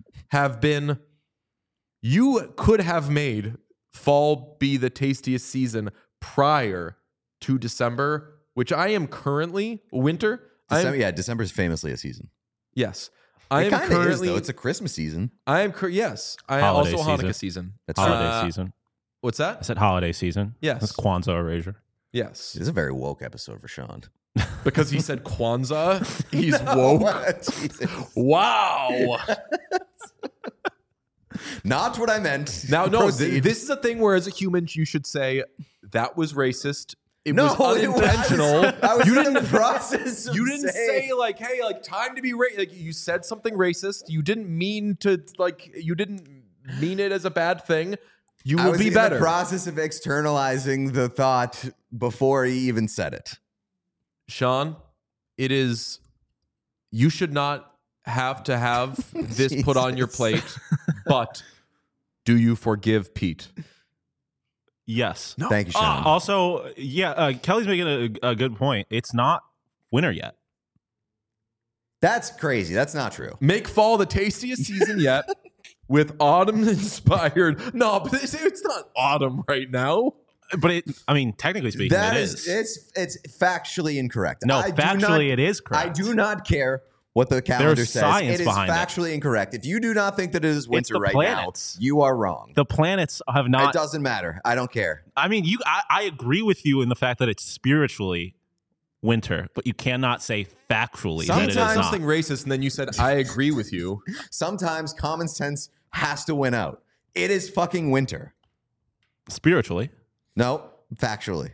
you could have made fall be the tastiest season prior to December, which I am currently winter. December is famously a season. Yes. It kind of is, though. It's a Christmas season. Yes. I am Holiday also season. Hanukkah season. That's Holiday season. What's I that? said holiday season. Yes. That's Kwanzaa erasure. Yes. It is a very woke episode for Sean. Because he said Kwanzaa, he's woke. Jesus. Wow. Not what I meant. Now, no, Proceed. this is a thing where as a human, you should say, that was racist. It No, was unintentional. I was you in didn't the process of You didn't saying- say like, hey, like time to be racist. Like you said something racist. You didn't mean to you didn't mean it as a bad thing. You I will was be in better. the process of externalizing the thought before he even said it. Sean, you should not have to have this put on your Jesus. plate, but do you forgive Pete? Yes. No. Thank you, Sean. Also, Kelly's making a good point. It's not winter yet. That's crazy. That's not true. Make fall the tastiest season yet with autumn inspired. No, but it's not autumn right now. But technically speaking, That it is, is. it's factually incorrect. No, I do factually, not- it is correct. I do not care what the calendar There's says. science It is behind it. factually incorrect. If you do not think that it is winter the right planets. now, you are wrong. The planets have It not. doesn't matter. I don't care. I mean, I agree with you in the fact that it's spiritually winter, but you cannot say factually that it is Sometimes not. something racist, and then you said, I agree with you. Sometimes common sense has to win out. It is fucking winter. Spiritually. No, factually.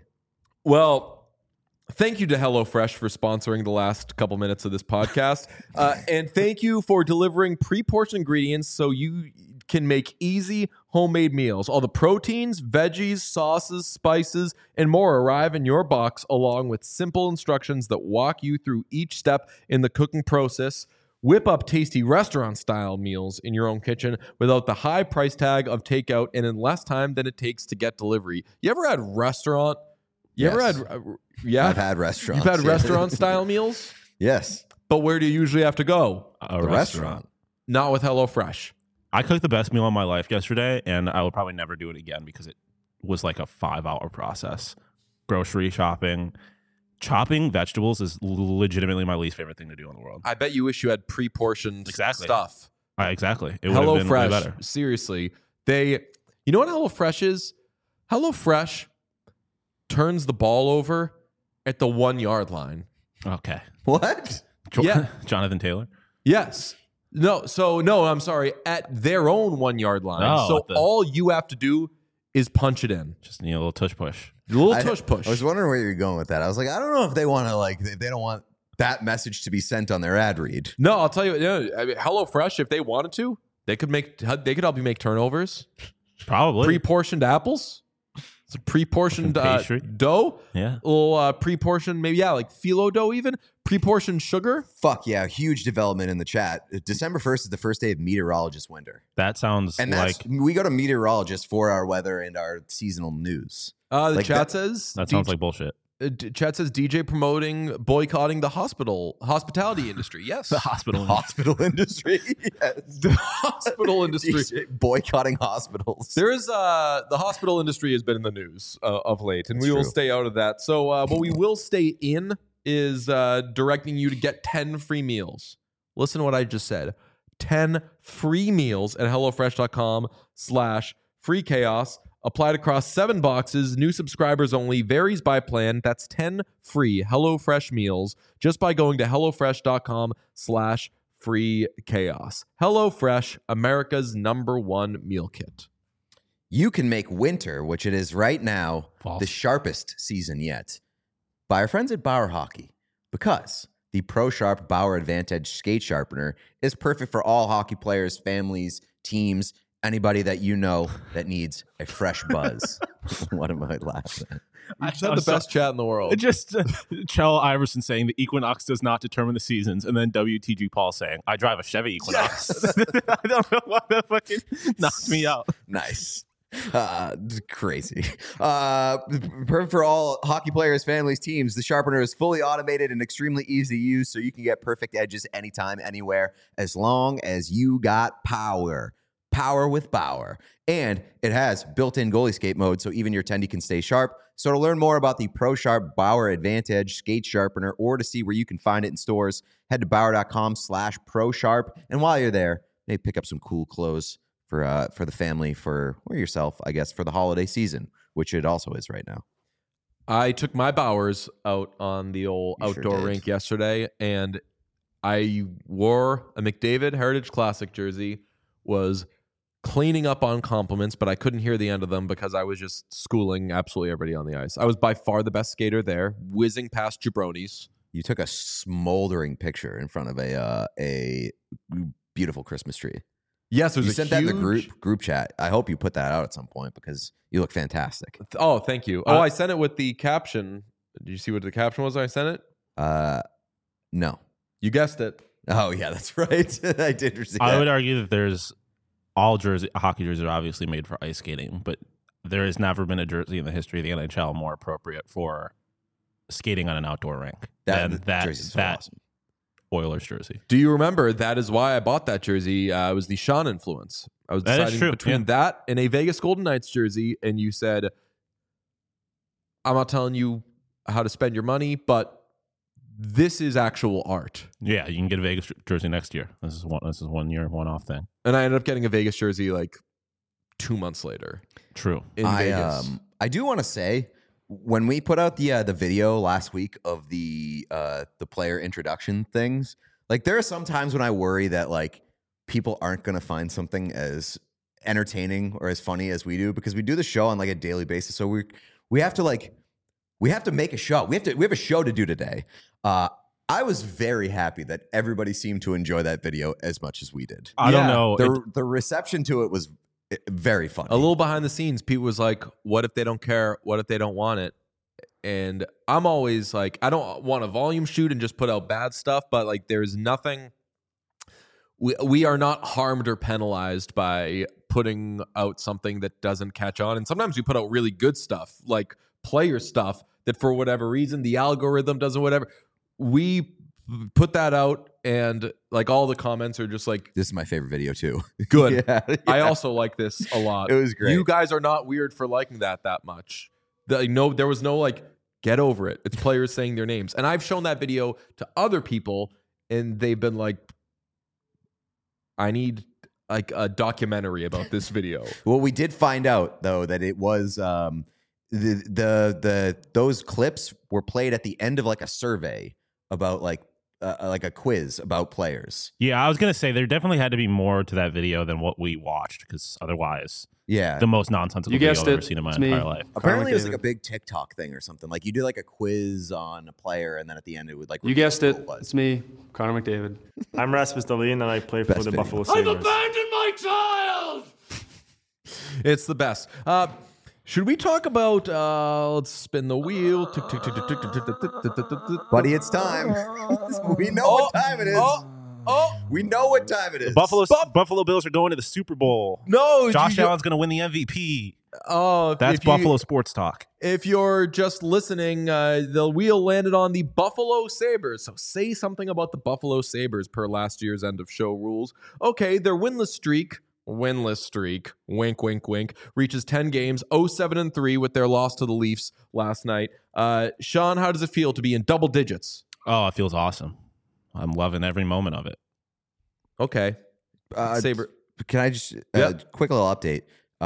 Well, thank you to HelloFresh for sponsoring the last couple minutes of this podcast. And thank you for delivering pre-portioned ingredients so you can make easy homemade meals. All the proteins, veggies, sauces, spices, and more arrive in your box along with simple instructions that walk you through each step in the cooking process. Whip up tasty restaurant-style meals in your own kitchen without the high price tag of takeout and in less time than it takes to get delivery. You ever had restaurant? You ever Yes. had? Yeah, I've had restaurants. You've had yeah. restaurant-style meals, Yes. but where do you usually have to go? A The restaurant. Not with HelloFresh. I cooked the best meal of my life yesterday, and I will probably never do it again because it was like a 5-hour process. Grocery shopping. Chopping vegetables is legitimately my least favorite thing to do in the world. I bet you wish you had pre-portioned Exactly. stuff. Exactly. It would have been way better. HelloFresh, seriously. You know what HelloFresh is? HelloFresh turns the ball over at the 1 yard line. Okay. What? Yeah. Jonathan Taylor. Yes. No, I'm sorry. At their own 1 yard line. Oh, So at the- all you have to do is punch it in. Just need a little tush push. A little I tush push. I was wondering where you're going with that. I was like, I don't know if they want to if they don't want that message to be sent on their ad read. No, I'll tell you. I mean, HelloFresh, if they wanted to, they could help you make turnovers. Probably. Pre-portioned apples. It's a pre-portioned Fucking pastry. dough. Yeah. A little pre-portioned, maybe like phyllo dough even. Pre-portioned sugar. Fuck yeah, huge development in the chat. December 1st is the first day of meteorologist winter. That sounds And like we go to meteorologists for our weather and our seasonal news. The Like chat that- says that sounds like bullshit. Chat says DJ boycotting the hospitality industry. Yes, The hospital. Hospital industry. Yes. the hospital industry. DJ boycotting hospitals. There is the hospital industry has been in the news of late, and That's we will true. stay out of that. So what we will stay in is directing you to get 10 free meals. Listen to what I just said. 10 free meals at HelloFresh.com/freechaos. Applied across 7 boxes. New subscribers only. Varies by plan. That's 10 free HelloFresh meals just by going to HelloFresh.com/freechaos. HelloFresh, America's #1 meal kit. You can make winter, which it is right now, False. the sharpest season yet, by our friends at Bauer Hockey, because the Pro Sharp Bauer Advantage skate sharpener is perfect for all hockey players, families, teams, anybody that you know that needs a fresh buzz. What am I laughing at? You just had the best chat in the world. Just Chell Iverson saying the Equinox does not determine the seasons, and then WTG Paul saying, I drive a Chevy Equinox. I don't know why that fucking knocked me out. Nice. Crazy. Perfect for all hockey players, families, teams. The sharpener is fully automated and extremely easy to use, so you can get perfect edges anytime, anywhere, as long as you got power. Power with Bauer. And it has built-in goalie skate mode, so even your tendy can stay sharp. So to learn more about the Pro Sharp Bauer Advantage skate sharpener, or to see where you can find it in stores, head to Bauer.com/ProSharp. And while you're there, maybe pick up some cool clothes for the family, or yourself, I guess, for the holiday season, which it also is right now. I took my Bowers out on the old You sure outdoor did. rink yesterday, and I wore a McDavid Heritage Classic jersey, was cleaning up on compliments, but I couldn't hear the end of them because I was just schooling absolutely everybody on the ice. I was by far the best skater there, whizzing past jabronis. You took a smoldering picture in front of a beautiful Christmas tree. Yes, there's You a sent that in the huge- group chat. I hope you put that out at some point because you look fantastic. Oh, thank you. I sent it with the caption. Did you see what the caption was when I sent it? No. You guessed it. Oh yeah, that's right. I did receive I that. would argue that there's hockey jerseys are obviously made for ice skating, but there has never been a jersey in the history of the NHL more appropriate for skating on an outdoor rink than jersey's so that awesome. Oilers jersey. Do you remember? That is why I bought that jersey. It was the Sean influence. I was That is deciding true, between yeah. that and a Vegas Golden Knights jersey, and you said, "I'm not telling you how to spend your money, but this is actual art." Yeah, you can get a Vegas jersey next year. This is 1 year, one-off thing. And I ended up getting a Vegas jersey like 2 months later True. in Vegas. I do want to say when we put out the video last week of the player introduction things, like there are some times when I worry that like people aren't going to find something as entertaining or as funny as we do, because we do the show on like a daily basis. So we have to make a show. We have a show to do today. I was very happy that everybody seemed to enjoy that video as much as we did. I don't know. The reception to it was very funny. A little behind the scenes, Pete was like, what if they don't care? What if they don't want it? And I'm always like, I don't want to volume shoot and just put out bad stuff, but like there's nothing. We are not harmed or penalized by putting out something that doesn't catch on. And sometimes we put out really good stuff, like player stuff that for whatever reason, the algorithm doesn't, whatever. We put that out and like all the comments are just like, this is my favorite video too. Good. Yeah. I also like this a lot. It was great. You guys are not weird for liking that much. There was no like, get over it. It's players saying their names. And I've shown that video to other people and they've been like, I need like a documentary about this video. Well, we did find out though that it was those clips were played at the end of like a survey about like a quiz about players. Yeah, I was gonna say there definitely had to be more to that video than what we watched, because otherwise, the most nonsensical video I've ever seen in my entire life. Apparently, it was like a big TikTok thing or something. Like you did like a quiz on a player, and then at the end it would like. You guessed it. It's me, Connor McDavid. I'm Rasmus Dahlin, and I play for the Buffalo Sabres. I've abandoned my child. It's the best. Should we talk about, let's spin the wheel. Buddy, it's time. We know what time it is. We know what time it is. Buffalo Bills are going to the Super Bowl. No. Josh Allen's going to win the MVP. Oh, that's Buffalo sports talk. If you're just listening, the wheel landed on the Buffalo Sabres. So say something about the Buffalo Sabres per last year's end of show rules. Okay, their winless streak, wink, wink, wink, reaches 10 games, 0-7-3 with their loss to the Leafs last night. Sean, how does it feel to be in double digits? Oh, it feels awesome. I'm loving every moment of it. Okay. Sabre. Can I just, quick little update.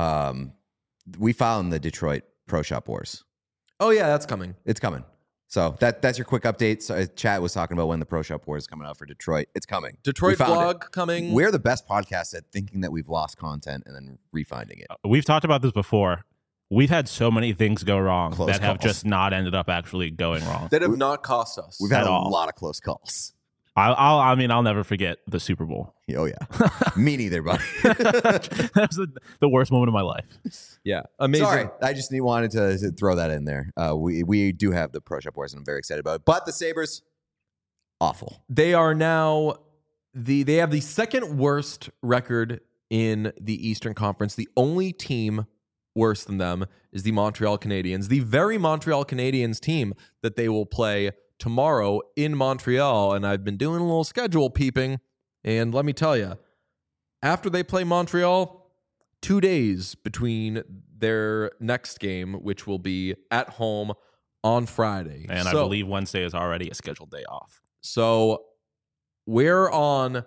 We found the Detroit Pro Shop Wars. Oh, yeah, that's coming. It's coming. So that's your quick update. So chat was talking about when the Pro Shop Wars is coming out for Detroit. It's coming. Detroit vlog coming. We're the best podcast at thinking that we've lost content and then refinding it. We've talked about this before. We've had so many things go wrong Close that have calls. just not ended up actually going wrong. That have not cost us. We've had a lot of close calls. I'll never forget the Super Bowl. Oh, yeah. Me neither, buddy. That was the worst moment of my life. Yeah. Amazing. Sorry. I just wanted to throw that in there. We do have the Pro Shop Wars, and I'm very excited about it. But the Sabres, awful. They are now they have the second worst record in the Eastern Conference. The only team worse than them is the Montreal Canadiens. The very Montreal Canadiens team that they will play tomorrow in Montreal. And I've been doing a little schedule peeping. And let me tell you, after they play Montreal, 2 days between their next game, which will be at home on Friday. And I believe Wednesday is already a scheduled day off. So we're on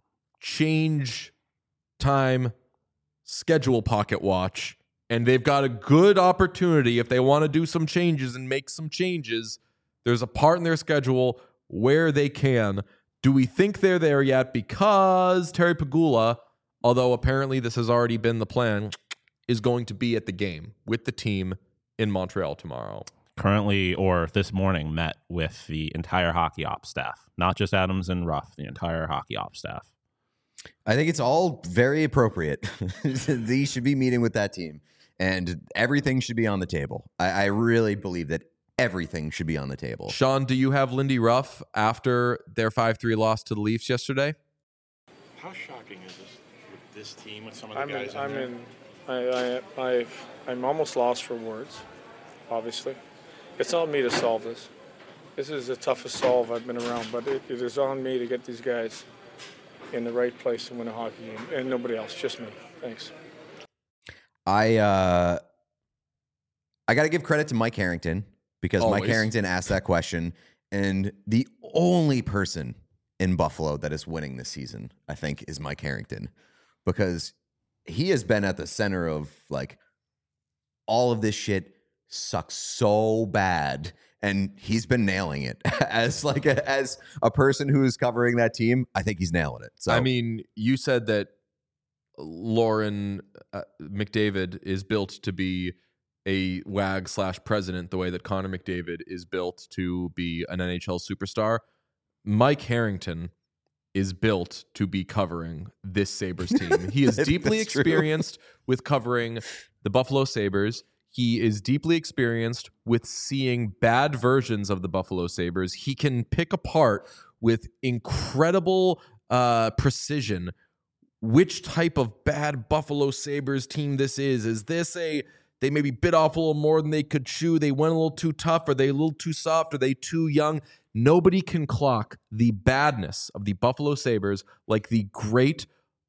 change time schedule pocket watch. And they've got a good opportunity if they want to do some changes and make some changes. There's a part in their schedule where they can. Do we think they're there yet? Because Terry Pegula, although apparently this has already been the plan, is going to be at the game with the team in Montreal tomorrow. Currently, or this morning, met with the entire hockey ops staff. Not just Adams and Ruff, the entire hockey ops staff. I think it's all very appropriate. They should be meeting with that team. And everything should be on the table. I really believe that everything should be on the table. Sean, do you have Lindy Ruff after their 5-3 loss to the Leafs yesterday? How shocking is this with this team, with some of the guys in there? I'm almost lost for words, obviously. It's on me to solve this. This is the toughest solve I've been around, but it is on me to get these guys in the right place to win a hockey game, and nobody else, just me. Thanks. I got to give credit to Mike Harrington, because Always. Mike Harrington asked that question, and the only person in Buffalo that is winning this season, I think, is Mike Harrington, because he has been at the center of like all of this shit sucks so bad, and he's been nailing it as a person who is covering that team. I think he's nailing it. So I mean, you said that Lauren McDavid is built to be a WAG/president the way that Connor McDavid is built to be an NHL superstar. Mike Harrington is built to be covering this Sabres team. He is deeply experienced with covering the Buffalo Sabres. He is deeply experienced with seeing bad versions of the Buffalo Sabres. He can pick apart with incredible precision which type of bad Buffalo Sabres team this is. Is this they maybe bit off a little more than they could chew? They went a little too tough. Are they a little too soft? Are they too young? Nobody can clock the badness of the Buffalo Sabres like the great,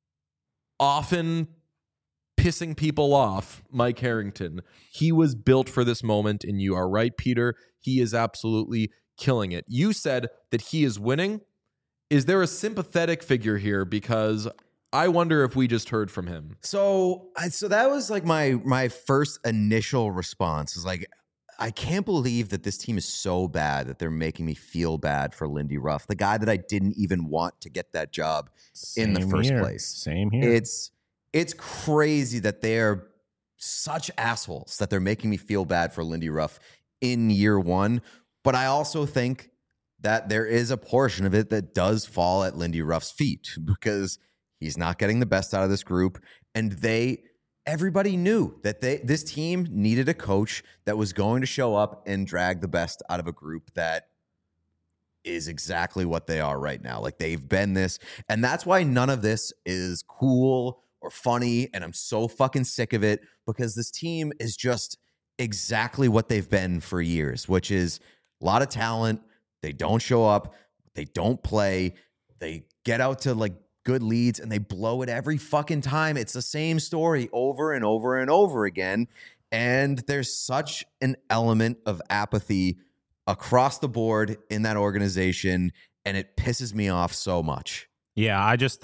often pissing people off Mike Harrington. He was built for this moment, and you are right, Peter. He is absolutely killing it. You said that he is winning. Is there a sympathetic figure here? Because I wonder if we just heard from him. So that was like my first initial response is like, I can't believe that this team is so bad that they're making me feel bad for Lindy Ruff, the guy that I didn't even want to get that job in the first place. Same here. It's crazy that they're such assholes that they're making me feel bad for Lindy Ruff in year one. But I also think that there is a portion of it that does fall at Lindy Ruff's feet because he's not getting the best out of this group. And everybody knew that this team needed a coach that was going to show up and drag the best out of a group that is exactly what they are right now. Like, they've been this. And that's why none of this is cool or funny. And I'm so fucking sick of it because this team is just exactly what they've been for years, which is a lot of talent. They don't show up. They don't play. They get out to like good leads and they blow it every fucking time. It's the same story over and over and over again. And there's such an element of apathy across the board in that organization, and it pisses me off so much. Yeah, I just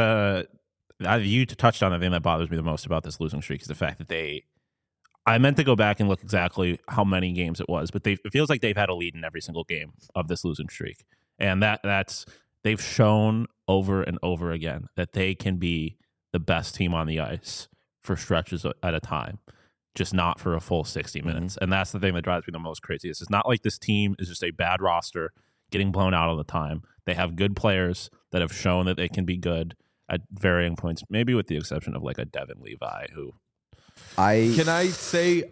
you touched on the thing that bothers me the most about this losing streak is the fact that I meant to go back and look exactly how many games it was, but it feels like they've had a lead in every single game of this losing streak. And that's they've shown over and over again that they can be the best team on the ice for stretches at a time, just not for a full 60 minutes. And that's the thing that drives me the most crazy. It's not like this team is just a bad roster getting blown out all the time. They have good players that have shown that they can be good at varying points, maybe with the exception of like a Devin Levi, who Can I say,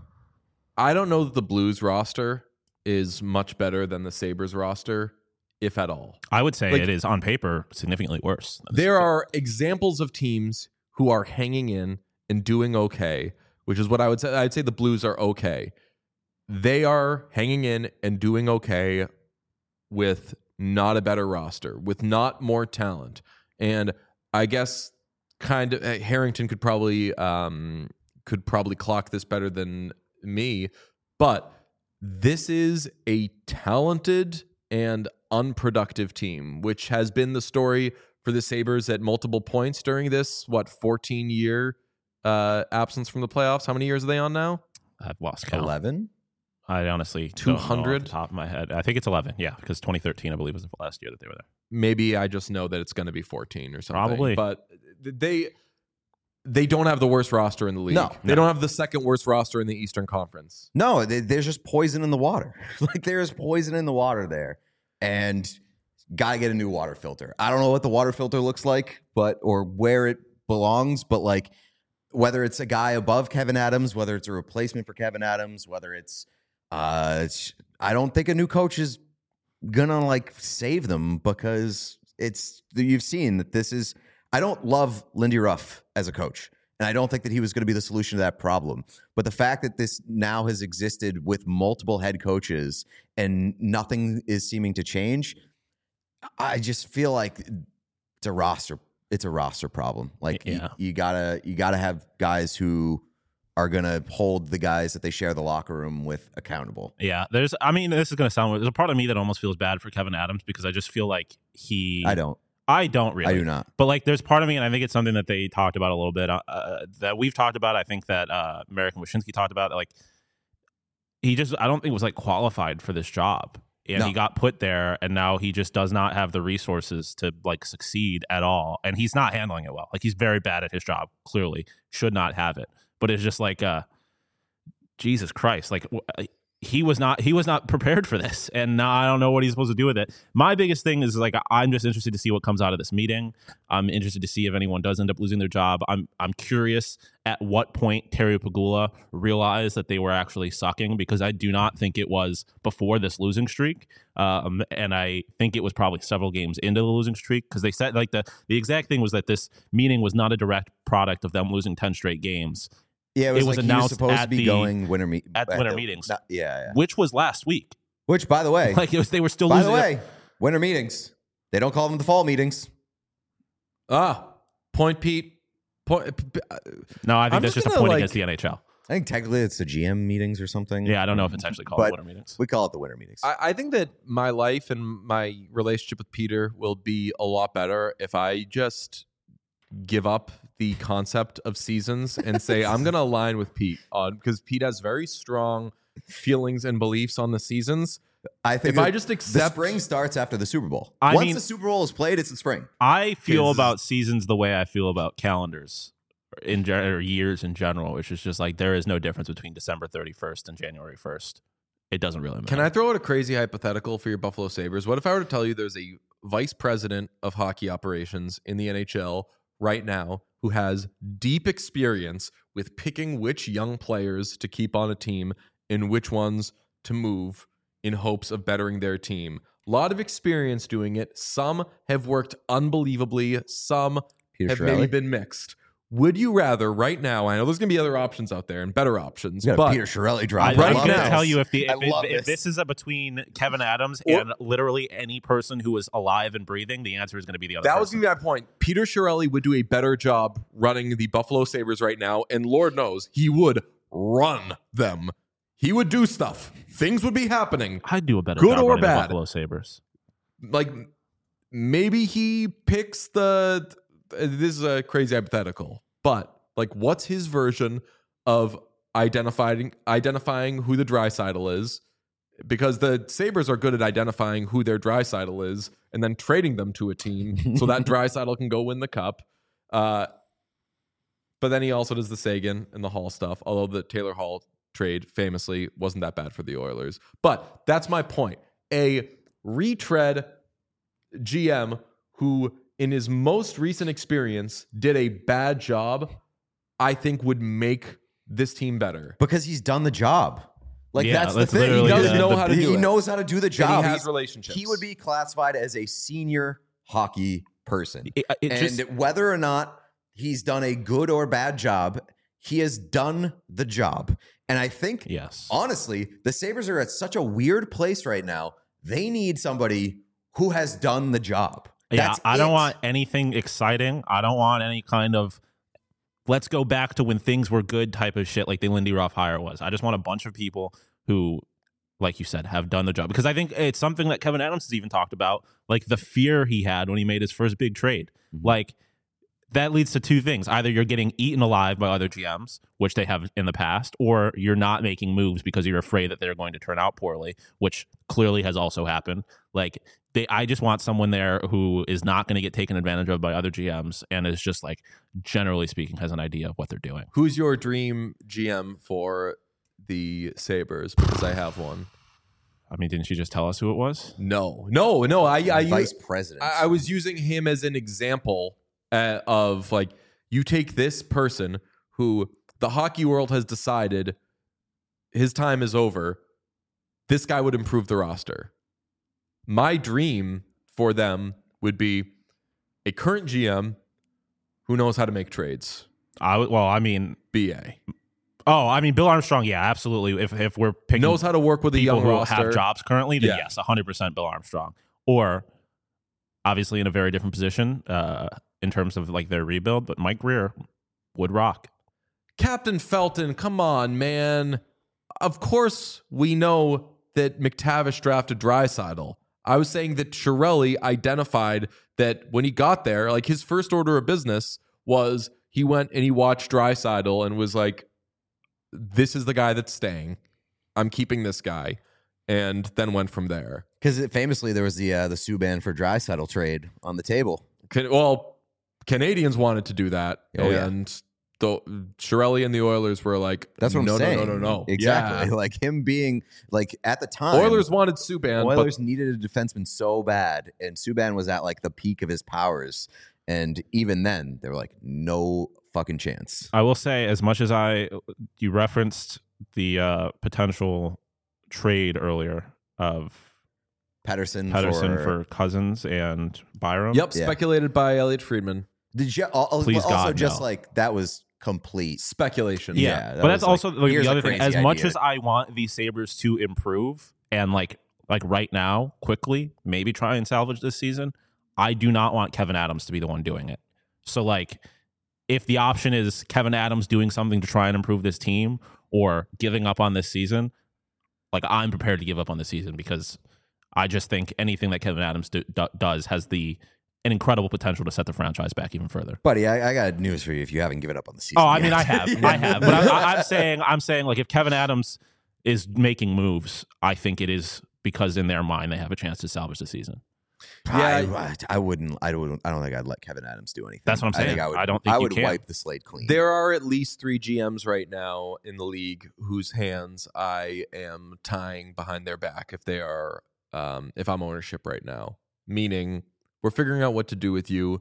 I don't know that the Blues roster is much better than the Sabres roster, if at all. I would say it is on paper significantly worse. There are examples of teams who are hanging in and doing okay, which is what I would say. I'd say the Blues are okay. They are hanging in and doing okay with not a better roster, with not more talent. And I guess kind of Harrington could probably clock this better than me, but this is a talented and unproductive team, which has been the story for the Sabres at multiple points during this 14-year absence from the playoffs. How many years are they on now? I've lost count. 11. I honestly 200 off the top of my head. I think it's 11. Yeah, because 2013 I believe was the last year that they were there. Maybe I just know that it's going to be 14 or something. Probably, but they don't have the worst roster in the league. They don't have the second worst roster in the Eastern Conference. No, there's just poison in the water. Like, there's poison in the water there, and gotta get a new water filter. I don't know what the water filter looks like, or where it belongs, but like whether it's a guy above Kevin Adams, whether it's a replacement for Kevin Adams, whether it's I don't think a new coach is gonna like save them because you've seen that this is. I don't love Lindy Ruff as a coach, and I don't think that he was going to be the solution to that problem. But the fact that this now has existed with multiple head coaches and nothing is seeming to change, I just feel like it's a roster. It's a roster problem. Like, yeah. you gotta have guys who are going to hold the guys that they share the locker room with accountable. Yeah, this is going to sound weird. There's a part of me that almost feels bad for Kevin Adams because I just feel like I don't really. I do not. But like, there's part of me, and I think it's something that they talked about a little bit, that we've talked about. I think that Merrick and Wyshynski talked about. Like, I don't think was like qualified for this job. And he got put there, and now he just does not have the resources to like succeed at all. And he's not handling it well. Like, he's very bad at his job, clearly. Should not have it. But it's just like, Jesus Christ. Like, he was not prepared for this, and now I don't know what he's supposed to do with it. My biggest thing is like, I'm just interested to see what comes out of this meeting. I'm interested to see if anyone does end up losing their job. I'm curious at what point Terry Pegula realized that they were actually sucking, because I do not think it was before this losing streak, and I think it was probably several games into the losing streak, because they said like the exact thing was that this meeting was not a direct product of them losing 10 straight games. Yeah, it was like announced supposed to be going winter meetings, yeah, which was last week. Which, by the way, like they were still. By losing the way, winter meetings. They don't call them the fall meetings. Point Pete. No, I think that's just a point against the NHL. I think technically it's the GM meetings or something. Yeah, I don't know if it's actually called winter meetings. We call it the winter meetings. I think that my life and my relationship with Peter will be a lot better if I just give up the concept of seasons and say I'm going to align with Pete on, because Pete has very strong feelings and beliefs on the seasons. I think if I just accept the spring starts after the Super Bowl. Once the Super Bowl is played, it's the spring. I feel about seasons the way I feel about calendars or years in general, which is just like there is no difference between December 31st and January 1st. It doesn't really matter. Can I throw out a crazy hypothetical for your Buffalo Sabres? What if I were to tell you there's a vice president of hockey operations in the NHL right now who has deep experience with picking which young players to keep on a team and which ones to move in hopes of bettering their team? A lot of experience doing it. Some have worked unbelievably. Some have maybe been mixed. Would you rather right now, I know there's going to be other options out there and better options, but Peter Chiarelli drop. I'm going to tell you if this is between Kevin Adams and literally any person who is alive and breathing, the answer is going to be the other person. That was going to be my point. Peter Chiarelli would do a better job running the Buffalo Sabres right now, and Lord knows he would run them. He would do stuff. Things would be happening. I'd do a better good job or running bad. the Buffalo Sabres. Like, maybe he picks this is a crazy hypothetical, but like, what's his version of identifying who the Draisaitl is? Because the Sabres are good at identifying who their Draisaitl is and then trading them to a team so that Draisaitl can go win the cup. But then he also does the Sagan and the Hall stuff, although the Taylor Hall trade famously wasn't that bad for the Oilers. But that's my point. A retread GM who, in his most recent experience, did a bad job, I think would make this team better. Because he's done the job. Like, that's the thing. He does know how to do it. He knows how to do the job. He has relationships. He would be classified as a senior hockey person. And whether or not he's done a good or bad job, he has done the job. And I think, honestly, the Sabres are at such a weird place right now. They need somebody who has done the job. Yeah, I don't want anything exciting. I don't want any kind of let's go back to when things were good type of shit like the Lindy Ruff hire was. I just want a bunch of people who, like you said, have done the job. Because I think it's something that Kevin Adams has even talked about, like the fear he had when he made his first big trade. Mm-hmm. Like, that leads to two things. Either you're getting eaten alive by other GMs, which they have in the past, or you're not making moves because you're afraid that they're going to turn out poorly, which clearly has also happened. Like, I just want someone there who is not going to get taken advantage of by other GMs and is just, like, generally speaking, has an idea of what they're doing. Who's your dream GM for the Sabres? Because I have one. I mean, didn't you just tell us who it was? No. Vice president. I was using him as an example of, like, you take this person who the hockey world has decided his time is over. This guy would improve the roster. My dream for them would be a current GM who knows how to make trades. BA. Oh, I mean, Bill Armstrong, yeah, absolutely. If we're picking knows how to work with a young roster, have jobs currently, then yes, 100% Bill Armstrong. Or obviously in a very different position in terms of like their rebuild, but Mike Grier would rock. Captain Felton, come on, man. Of course we know that McTavish drafted Draisaitl. I was saying that Chiarelli identified that when he got there, like his first order of business was he went and he watched Draisaitl and was like, this is the guy that's staying. I'm keeping this guy, and then went from there. Because famously, there was the Subban for Draisaitl trade on the table. Canadians wanted to do that, and the Chiarelli and the Oilers were like, "That's what I'm saying." No, exactly. Yeah. Like him being like at the time, Oilers wanted Subban. Oilers needed a defenseman so bad, and Subban was at like the peak of his powers, and even then, they were like, "No fucking chance." I will say, as much as you referenced the potential trade earlier of Pettersson for Cousins and Byram. Yep, speculated by Elliot Friedman. Did you Please also God, just no. like that was complete speculation? Yeah, but that's also like, the other thing. As much as I want the Sabres to improve and like right now, quickly, maybe try and salvage this season, I do not want Kevin Adams to be the one doing it. So like, if the option is Kevin Adams doing something to try and improve this team or giving up on this season, like I'm prepared to give up on the season because I just think anything that Kevin Adams does has an incredible potential to set the franchise back even further. Buddy, I got news for you if you haven't given up on the season. Oh, I mean, I have. But I'm saying like if Kevin Adams is making moves, I think it is because in their mind they have a chance to salvage the season. Yeah, I wouldn't. I don't think I'd let Kevin Adams do anything. That's what I'm saying. I would wipe the slate clean. There are at least 3 GMs right now in the league whose hands I am tying behind their back if they are, if I'm ownership right now. Meaning, we're figuring out what to do with you.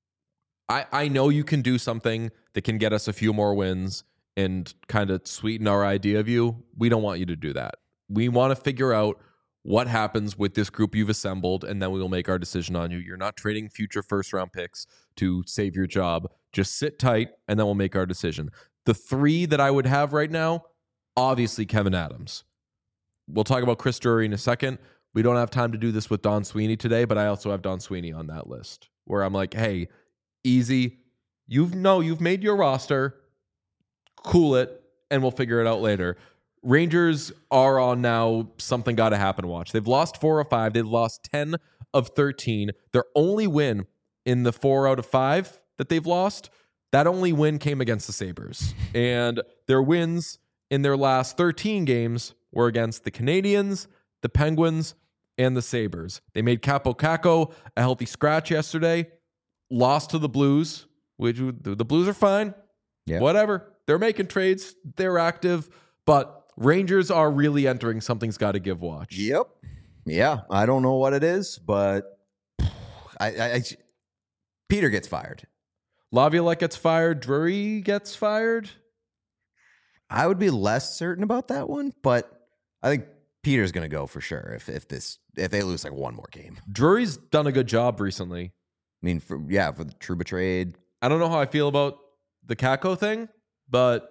I know you can do something that can get us a few more wins and kind of sweeten our idea of you. We don't want you to do that. We want to figure out what happens with this group you've assembled, and then we will make our decision on you. You're not trading future first-round picks to save your job. Just sit tight, and then we'll make our decision. The 3 that I would have right now, obviously Kevin Adams. We'll talk about Chris Drury in a second. We don't have time to do this with Don Sweeney today, but I also have Don Sweeney on that list where I'm like, hey, easy. You've made your roster. Cool it, and we'll figure it out later. Rangers are on now something got to happen watch. They've lost 4 of 5. They've lost 10 of 13. Their only win in the 4 out of 5 that they've lost, that only win came against the Sabres. And their wins in their last 13 games were against the Canadiens, the Penguins, and the Sabres. They made Capo Caco a healthy scratch yesterday, lost to the Blues, which the Blues are fine. Yeah. Whatever. They're making trades. They're active, but Rangers are really entering something's got to give watch. Yep. Yeah. I don't know what it is, but Peter gets fired. Laviolette gets fired. Drury gets fired. I would be less certain about that one, but I think Peter's going to go for sure if they lose like one more game. Drury's done a good job recently. I mean, for the Trouba trade. I don't know how I feel about the Kako thing, but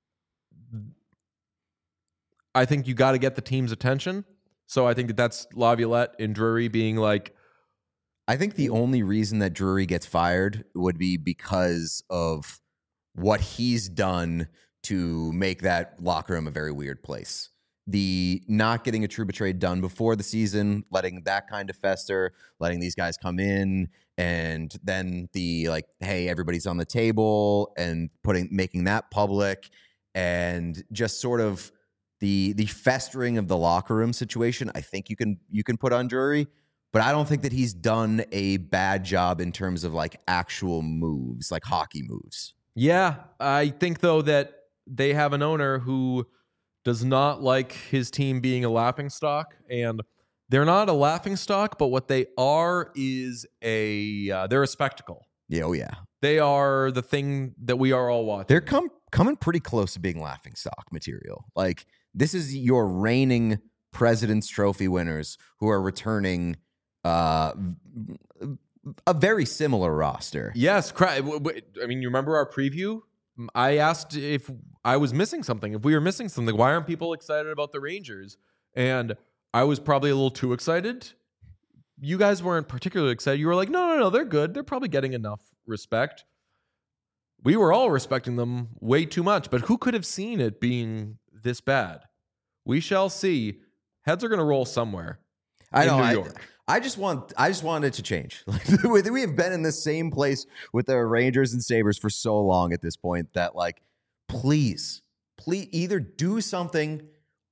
I think you got to get the team's attention. So I think that's Laviolette and Drury being like. I think the only reason that Drury gets fired would be because of what he's done to make that locker room a very weird place. The not getting a Trouba trade done before the season, letting that kind of fester, letting these guys come in, and then the like, hey, everybody's on the table, and making that public, and just sort of the festering of the locker room situation. I think you can put on Drury, but I don't think that he's done a bad job in terms of like actual moves, like hockey moves. Yeah, I think though that they have an owner who does not like his team being a laughingstock, and they're not a laughingstock, but what they are is they're a spectacle. Yeah, oh yeah. They are the thing that we are all watching. They're coming pretty close to being laughingstock material. Like, this is your reigning President's Trophy winners who are returning a very similar roster. Yes, I mean, you remember our preview? I asked if I was missing something. If we were missing something, why aren't people excited about the Rangers? And I was probably a little too excited. You guys weren't particularly excited. You were like, no, they're good. They're probably getting enough respect. We were all respecting them way too much, but who could have seen it being this bad? We shall see. Heads are going to roll somewhere. I know. New York. I just want it to change. We have been in the same place with the Rangers and Sabres for so long at this point that, like, please either do something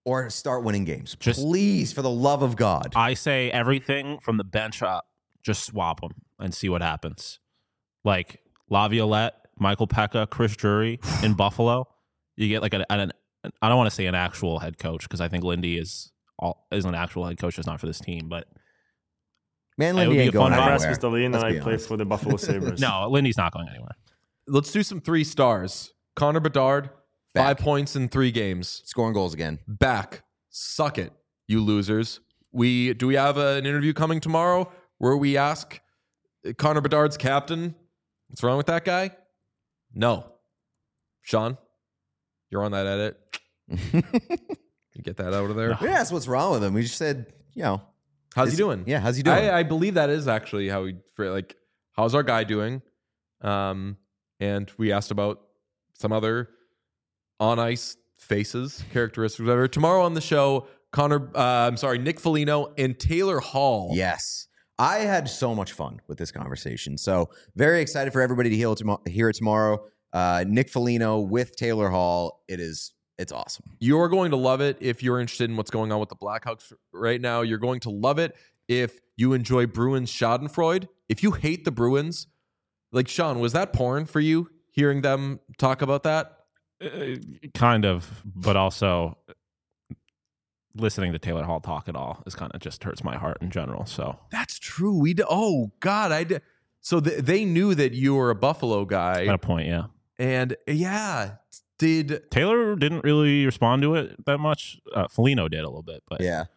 or start winning games. Just- Please, for the love of God. I say everything from the bench up, just swap them and see what happens. Like Laviolette, Michael Pekka, Chris Drury in Buffalo. You get like I don't want to say an actual head coach because I think Lindy is an actual head coach. It's not for this team, but Man, Lindy ain't going I'm anywhere. Rasmus Dahlin, and I play honest. for the Buffalo Sabres. no, Lindy's not going anywhere. Let's do some 3 stars. Connor Bedard, Back. 5 points in 3 games. Scoring goals again. Back. Suck it, you losers. Do we have an interview coming tomorrow where we ask Connor Bedard's captain, what's wrong with that guy? No. Sean, you're on that edit. You get that out of there. We asked what's wrong with him. We just said, How's he doing? Yeah, how's he doing? I believe that is actually how how's our guy doing? And we asked about some other on ice faces, characteristics, whatever. Tomorrow on the show, Nick Foligno and Taylor Hall. Yes. I had so much fun with this conversation. So very excited for everybody to hear it tomorrow. Nick Foligno with Taylor Hall. It's awesome. You're going to love it if you're interested in what's going on with the Blackhawks right now. You're going to love it if you enjoy Bruins Schadenfreude. If you hate the Bruins, like Sean, was that porn for you hearing them talk about that? Kind of, but also listening to Taylor Hall talk at all is kind of just hurts my heart in general. So That's true. Oh God, I did. So they knew that you were a Buffalo guy, at a point, yeah. and did Taylor didn't really respond to it that much. Foligno did a little bit, but Yeah.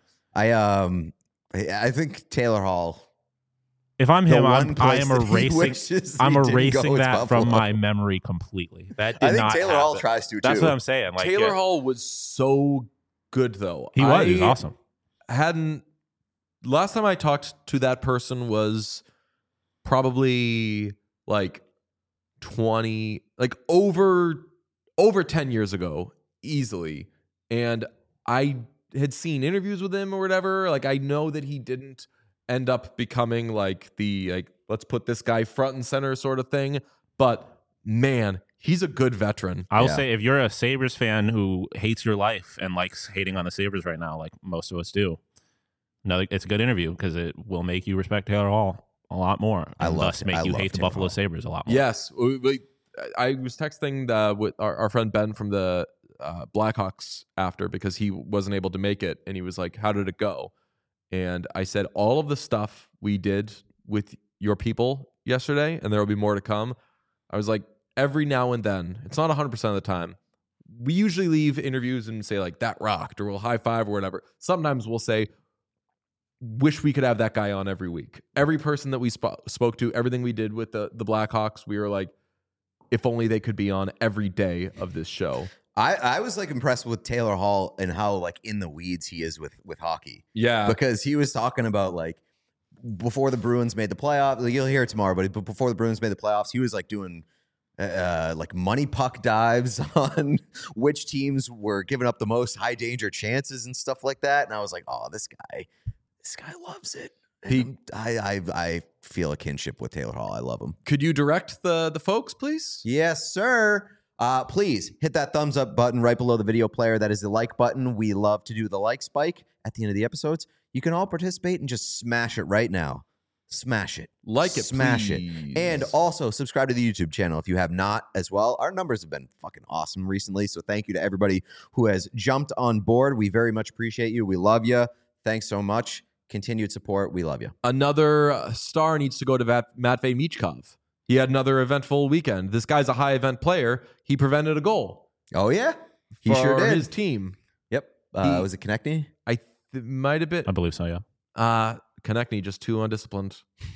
I think Taylor Hall. if I'm The him, one I place am that he erasing. wishes I'm he didn't erasing go is that from Buffalo. my memory completely. That did I think not Taylor Hall happen. tries to, too. That's what I'm saying. Like Taylor Hall was so good though. he was awesome. Last time I talked to that person was probably like 20, like over 10 years ago, easily. And I had seen interviews with him or whatever. Like I know that he didn't end up becoming like let's put this guy front and center sort of thing. But man, he's a good veteran. I will Yeah. say, if you're a Sabres fan who hates your life and likes hating on the Sabres right now, like most of us do, it's a good interview because it will make you respect Taylor Hall a lot more. And thus make you hate the Taylor Buffalo Hall. Sabres a lot more. Yes. I was texting with our friend Ben from the Blackhawks after because he wasn't able to make it. And he was like, how did it go? And I said, all of the stuff we did with your people yesterday, and there will be more to come. I was like, every now and then, it's not 100% of the time, we usually leave interviews and say like, that rocked, or we'll high five or whatever. Sometimes we'll say, wish we could have that guy on every week. Every person that we spoke to, everything we did with the Blackhawks, we were like, if only they could be on every day of this show. I was like impressed with Taylor Hall and how like in the weeds he is with hockey. Yeah. Because he was talking about like before the Bruins made the playoffs. Like, you'll hear it tomorrow, but before the Bruins made the playoffs, he was like doing like money puck dives on which teams were giving up the most high danger chances and stuff like that. And I was like, oh, this guy loves it. I feel a kinship with Taylor Hall. I love him. Could you direct the folks, please? Yes, sir. Please hit that thumbs up button right below the video player. That is the like button. We love to do the like spike at the end of the episodes. You can all participate and just smash it right now. Smash it. Like it, Smash please. it. And also subscribe to the YouTube channel if you have not as well. Our numbers have been fucking awesome recently. So thank you to everybody who has jumped on board. We very much appreciate you. We love you. Thanks so much. Continued support. We love you. Another star needs to go to Matvei Michkov. He had another eventful weekend. This guy's a high event player. He prevented a goal. Oh, yeah. He sure for did. his team. Yep. Was it Konechny? Might have been. I believe so, yeah. Konechny, just too undisciplined.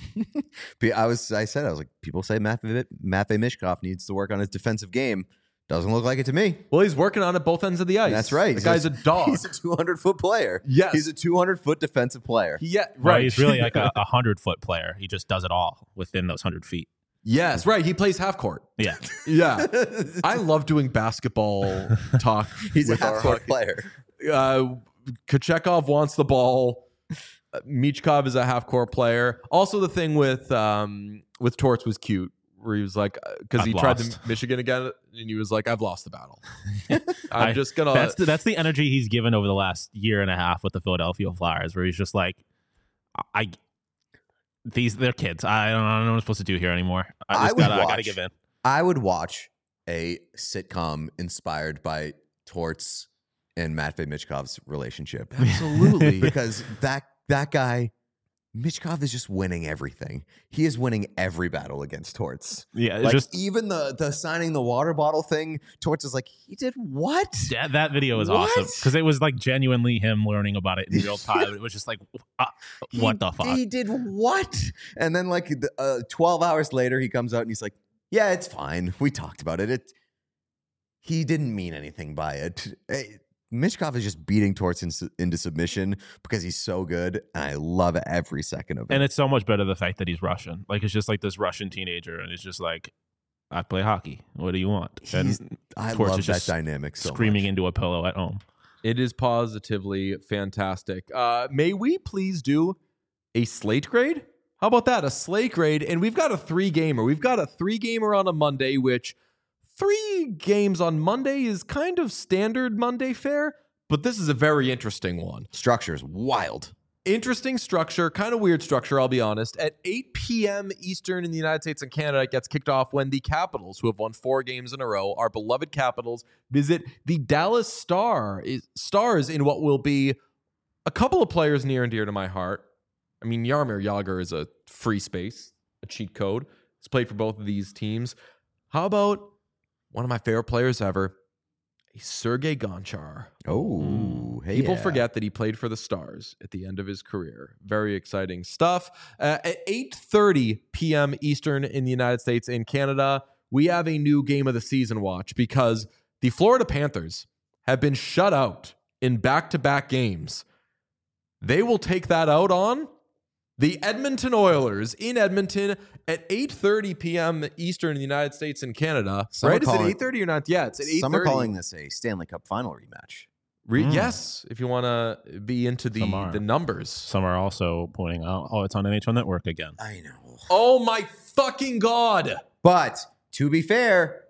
I said, people say Matvei Michkov needs to work on his defensive game. Doesn't look like it to me. Well, he's working on it both ends of the ice. That's right. The guy's a dog. He's a 200-foot player. Yes. He's a 200-foot defensive player. Yeah, Well, right. he's really like a 100-foot player. He just does it all within those 100 feet. Yes, right. He plays half court. Yeah. Yeah. I love doing basketball talk. He's a with our half-court hockey. player. Kochekov wants the ball. Michkov is a half-court player. Also, the thing with Torts was cute. where he was like, because he tried to Michigan again, and he was like, I've lost the battle. I'm just going to. That's the energy he's given over the last year and a half with the Philadelphia Flyers, where he's just like, they're kids. I don't know what I'm supposed to do here anymore. I got to give in. I would watch a sitcom inspired by Torts and Matvei Michkov's relationship. Absolutely. Because that guy, Michkov, is just winning everything. He is winning every battle against Torts. Yeah, it's like, just even the signing the water bottle thing. Torts is like, he did what? That video is awesome because it was like genuinely him learning about it in real time. It was just like, what the fuck? He did what? And then like 12 hours later, he comes out and he's like, yeah, it's fine. We talked about it. He didn't mean anything by it. Michkov is just beating Torts into submission because he's so good, and I love every second of it. And it's so much better the fact that he's Russian. Like, it's just like this Russian teenager, and it's just like, I play hockey. What do you want? I love that dynamic so screaming much. Into a pillow at home. It is positively fantastic. May we please do a slate grade? How about that? A slate grade, and we've got a 3-gamer. We've got a 3-gamer on a Monday, which 3 games on Monday is kind of standard Monday fare, but this is a very interesting one. Structure is wild. Interesting structure, kind of weird structure, I'll be honest. At 8 p.m. Eastern in the United States and Canada, it gets kicked off when the Capitals, who have won 4 games in a row, our beloved Capitals, visit the Dallas Stars in what will be a couple of players near and dear to my heart. I mean, Jaromir Jagr is a free space, a cheat code. He's played for both of these teams. How about one of my favorite players ever, Sergei Gonchar. Oh, hey. People forget that he played for the Stars at the end of his career. Very exciting stuff. At 8:30 p.m. Eastern in the United States and Canada, we have a new game of the season watch because the Florida Panthers have been shut out in back-to-back games. They will take that out on the Edmonton Oilers in Edmonton at 8:30 p.m. Eastern in the United States and Canada. Right? Is it 8:30 or not? Yeah, it's at 8:30. Some are calling this a Stanley Cup final rematch. Yes, if you want to be into the numbers. Some are also pointing out, it's on NHL Network again. I know. Oh my fucking God. But to be fair,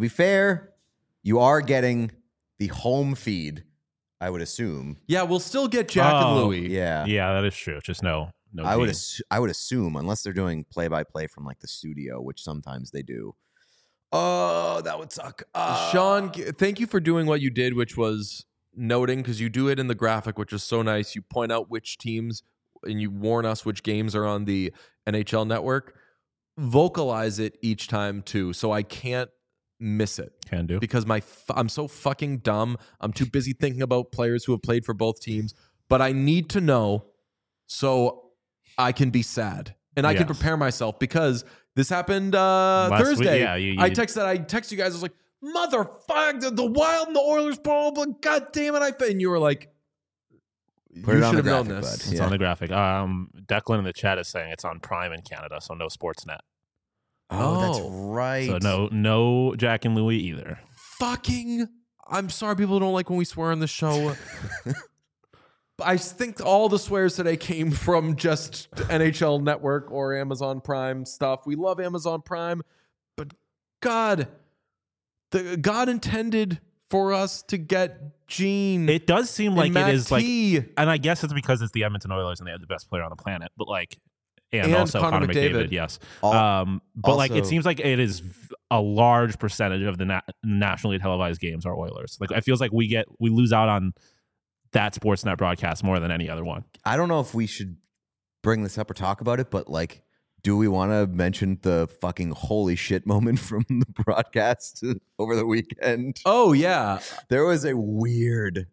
you are getting the home feed, I would assume. Yeah, we'll still get Jack and Louie. Yeah, that is true. Just no. I would assume, unless they're doing play-by-play from like the studio, which sometimes they do. Oh, that would suck. Sean, thank you for doing what you did, which was noting, because you do it in the graphic, which is so nice. You point out which teams and you warn us which games are on the NHL Network. Vocalize it each time too, so I can't miss it. Can do. Because I'm so fucking dumb. I'm too busy thinking about players who have played for both teams, but I need to know so I can be sad and I can prepare myself, because this happened Thursday. I texted you guys. I was like, motherfucker, the Wild and the Oilers, blah, blah, God damn it. And you were like, you should have known this. It's on the graphic. Declan in the chat is saying it's on Prime in Canada, so no Sportsnet. Oh, that's right. So no Jack and Louie either. Fucking, I'm sorry people don't like when we swear on the show. I think all the swears today came from just NHL Network or Amazon Prime stuff. We love Amazon Prime, but God intended for us to get Gene. It does seem like it is T. like, and I guess it's because it's the Edmonton Oilers and they have the best player on the planet, but like, and also Connor McDavid, yes. But like, it seems like it is a large percentage of the nationally televised games are Oilers. Like, it feels like we lose out on that Sportsnet broadcast more than any other one. I don't know if we should bring this up or talk about it, but like, do we want to mention the fucking holy shit moment from the broadcast over the weekend? Oh, yeah. There was a weird...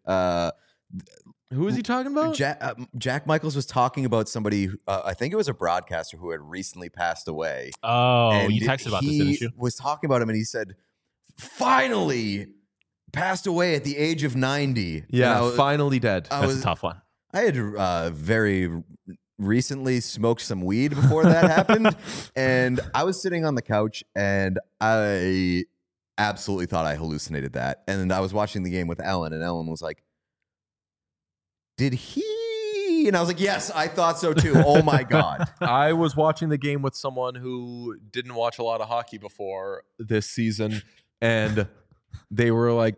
who was he talking about? Jack Michaels was talking about somebody, I think it was a broadcaster who had recently passed away. Oh, and you texted about this, didn't you? He was talking about him and he said, finally passed away at the age of 90. Yeah, finally dead. That's a tough one. I had very recently smoked some weed before that happened. And I was sitting on the couch and I absolutely thought I hallucinated that. And I was watching the game with Ellen and Ellen was like, did he Wee! And I was like, yes, I thought so too. Oh my God. I was watching the game with someone who didn't watch a lot of hockey before this season, and they were like,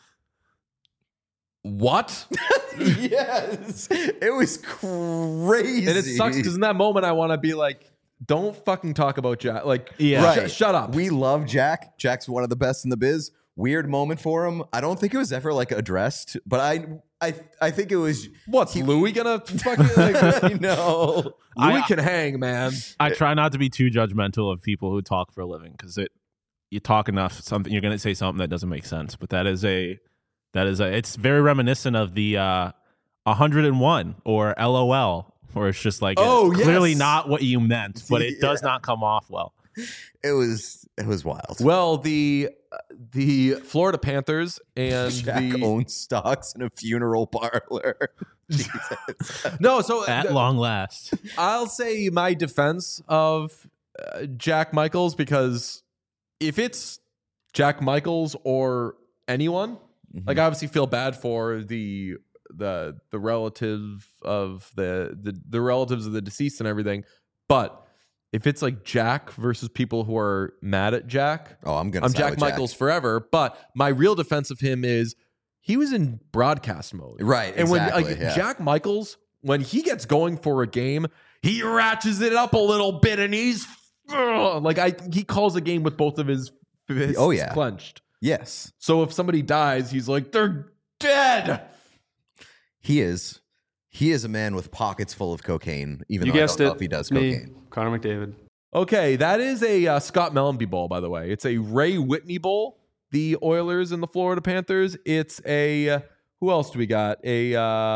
what? Yes. It was crazy. And it sucks because in that moment I want to be like, don't fucking talk about Jack. Like, Right. shut up. We love Jack. Jack's one of the best in the biz. Weird moment for him. I don't think it was ever like addressed, but I think it was. What's Louis gonna fucking like? I know. Louis can hang, man. I try not to be too judgmental of people who talk for a living because you talk enough, something you're going to say something that doesn't make sense. But that is it's very reminiscent of the 101 or LOL, where it's just like clearly not what you meant, but it does not come off well. It was wild. Well, the Florida Panthers and Jack owns stocks in a funeral parlor. Jesus. No, so At long last, I'll say my defense of Jack Michaels, because if it's Jack Michaels or anyone, like I obviously feel bad for the relative of the relatives of the deceased and everything, but if it's like Jack versus people who are mad at Jack, I'm Jack Michaels forever. But my real defense of him is he was in broadcast mode, right? And exactly, when Jack Michaels, when he gets going for a game, he ratchets it up a little bit, and he's he calls a game with both of his fists clenched. Yes. So if somebody dies, he's like, they're dead. He is a man with pockets full of cocaine, even though I don't know if he does cocaine. Connor McDavid. Okay, that is a Scott Mellenby Bowl, by the way. It's a Ray Whitney Bowl, the Oilers and the Florida Panthers. It's a, who else do we got? A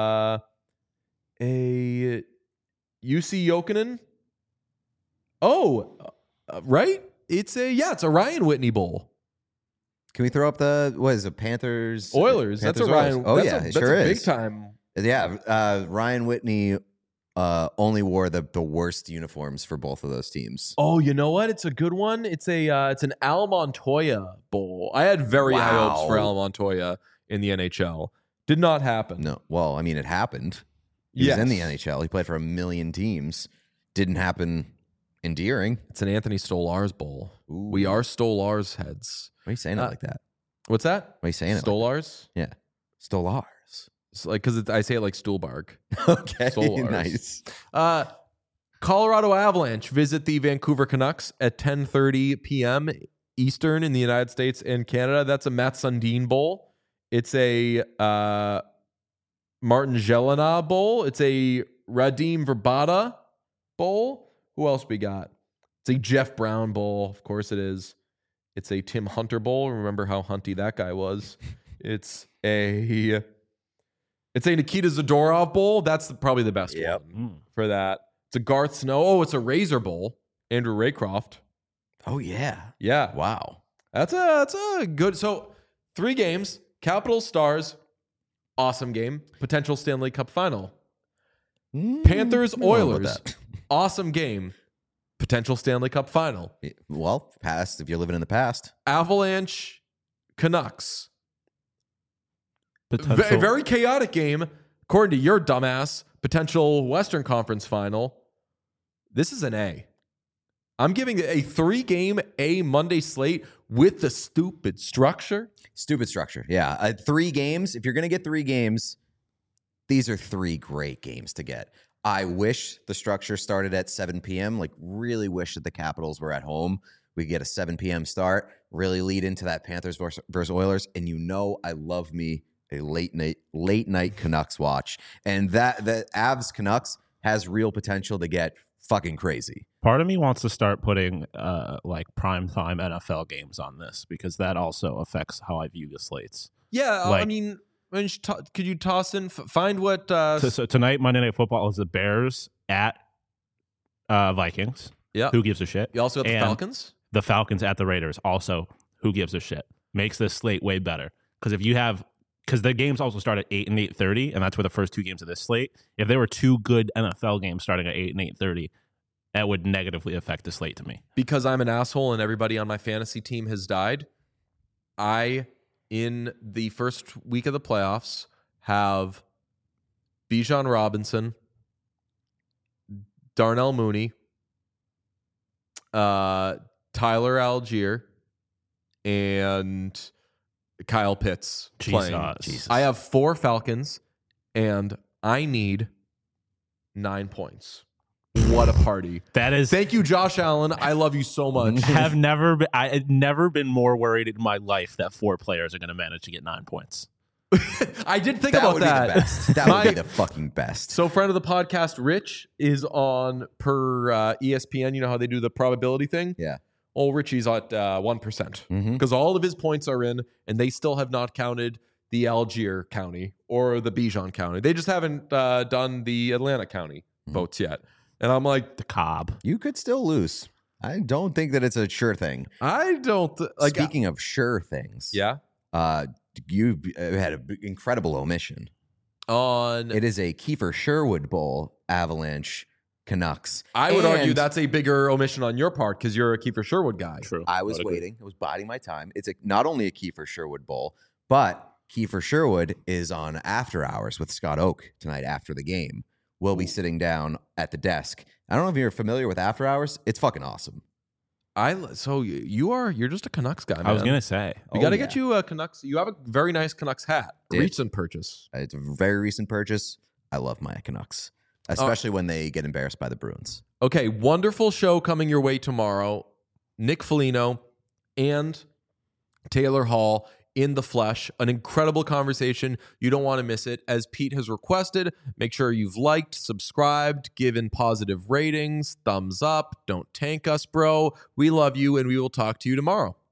UC Jokinen. Oh, right? It's a Ryan Whitney Bowl. Can we throw up Panthers? Oilers. That's a Ryan. Oh, that's sure a is. big time. Yeah, Ryan Whitney only wore the worst uniforms for both of those teams. Oh, you know what? It's a good one. It's an Al Montoya Bowl. I had very high hopes for Al Montoya in the NHL. Did not happen. No. Well, I mean, it happened. He was in the NHL. He played for 1 million teams. Didn't happen endearing. It's an Anthony Stolarz Bowl. Ooh. We are Stolarz heads. Why are you saying it like that? What's that? Why are you saying it? Stolarz? Like yeah. Stolarz. It's like, because I say it like Stuhlbarg. Okay, Stolarz. nice. Colorado Avalanche visit the Vancouver Canucks at 10:30 p.m. Eastern in the United States and Canada. That's a Matt Sundin Bowl. It's a Martin Gelinas Bowl. It's a Radim Verbata Bowl. Who else we got? It's a Jeff Brown Bowl. Of course it is. It's a Tim Hunter Bowl. Remember how hunty that guy was. It's a Nikita Zadorov Bowl. That's probably the best one for that. It's a Garth Snow. Oh, it's a Razor Bowl. Andrew Raycroft. Oh, yeah. Yeah. Wow. That's a good. So 3 games. Capitals, Stars. Awesome game. Potential Stanley Cup final. Panthers, Oilers. Awesome game. Potential Stanley Cup final. Well, past if you're living in the past. Avalanche, Canucks. potential. Very chaotic game, according to your dumbass. Potential Western Conference final. This is an A. I'm giving it a 3-game A Monday slate with the stupid structure. Stupid structure. Yeah. 3 games. If you're going to get 3 games, these are 3 great games to get. I wish the structure started at 7 p.m. Like, really wish that the Capitals were at home. We get a 7 p.m. start, really lead into that Panthers versus Oilers. And you know I love me a late night Canucks watch. And the Avs Canucks has real potential to get fucking crazy. Part of me wants to start putting like primetime NFL games on this because that also affects how I view the slates. Yeah, like, I mean, could you toss in, find what... So tonight, Monday Night Football is the Bears at Vikings. Yeah. Who gives a shit? You also got the And Falcons? The Falcons at the Raiders. Also, who gives a shit? Makes this slate way better. Because if you have... Because the games also start at 8 and 8:30, and that's where the first 2 games of this slate. If there were 2 good NFL games starting at 8 and 8:30, that would negatively affect the slate to me. Because I'm an asshole and everybody on my fantasy team has died, I, in the first week of the playoffs, have Bijan Robinson, Darnell Mooney, Tyler Algier, and Kyle Pitts playing. Jesus. I have 4 Falcons, and I need 9 points. What a party. That is. Thank you, Josh Allen. I love you so much. I had never been more worried in my life that 4 players are going to manage to get 9 points. I did think That about would that. be the best. That would be the fucking best. So, friend of the podcast, Rich, is on per ESPN. You know how they do the probability thing? Yeah. Oh, Richie's at 1% because all of his points are in, and they still have not counted the Algier County or the Bijan County. They just haven't done the Atlanta County votes yet. And I'm like, The Cobb. You could still lose. I don't think that it's a sure thing. I don't like. Speaking of sure things, Yeah. You had an incredible omission. On, It is a Kiefer Sherwood Bowl, Avalanche Canucks. I would argue And that's a bigger omission on your part because you're a Kiefer Sherwood guy. True. I was waiting. I was biding my time. It's not only a Kiefer Sherwood Bowl, but Kiefer Sherwood is on After Hours with Scott Oak tonight after the game. We'll be sitting down at the desk. I don't know if you're familiar with After Hours. It's fucking awesome. So you're just a Canucks guy, man. I was going to say. We got to get you a Canucks. You have a very nice Canucks hat. Did. Recent purchase. It's a very recent purchase. I love my Canucks, especially when they get embarrassed by the Bruins. Okay, wonderful show coming your way tomorrow. Nick Foligno and Taylor Hall in the flesh. An incredible conversation. You don't want to miss it. As Pete has requested, make sure you've liked, subscribed, given positive ratings, thumbs up. Don't tank us, bro. We love you, and we will talk to you tomorrow.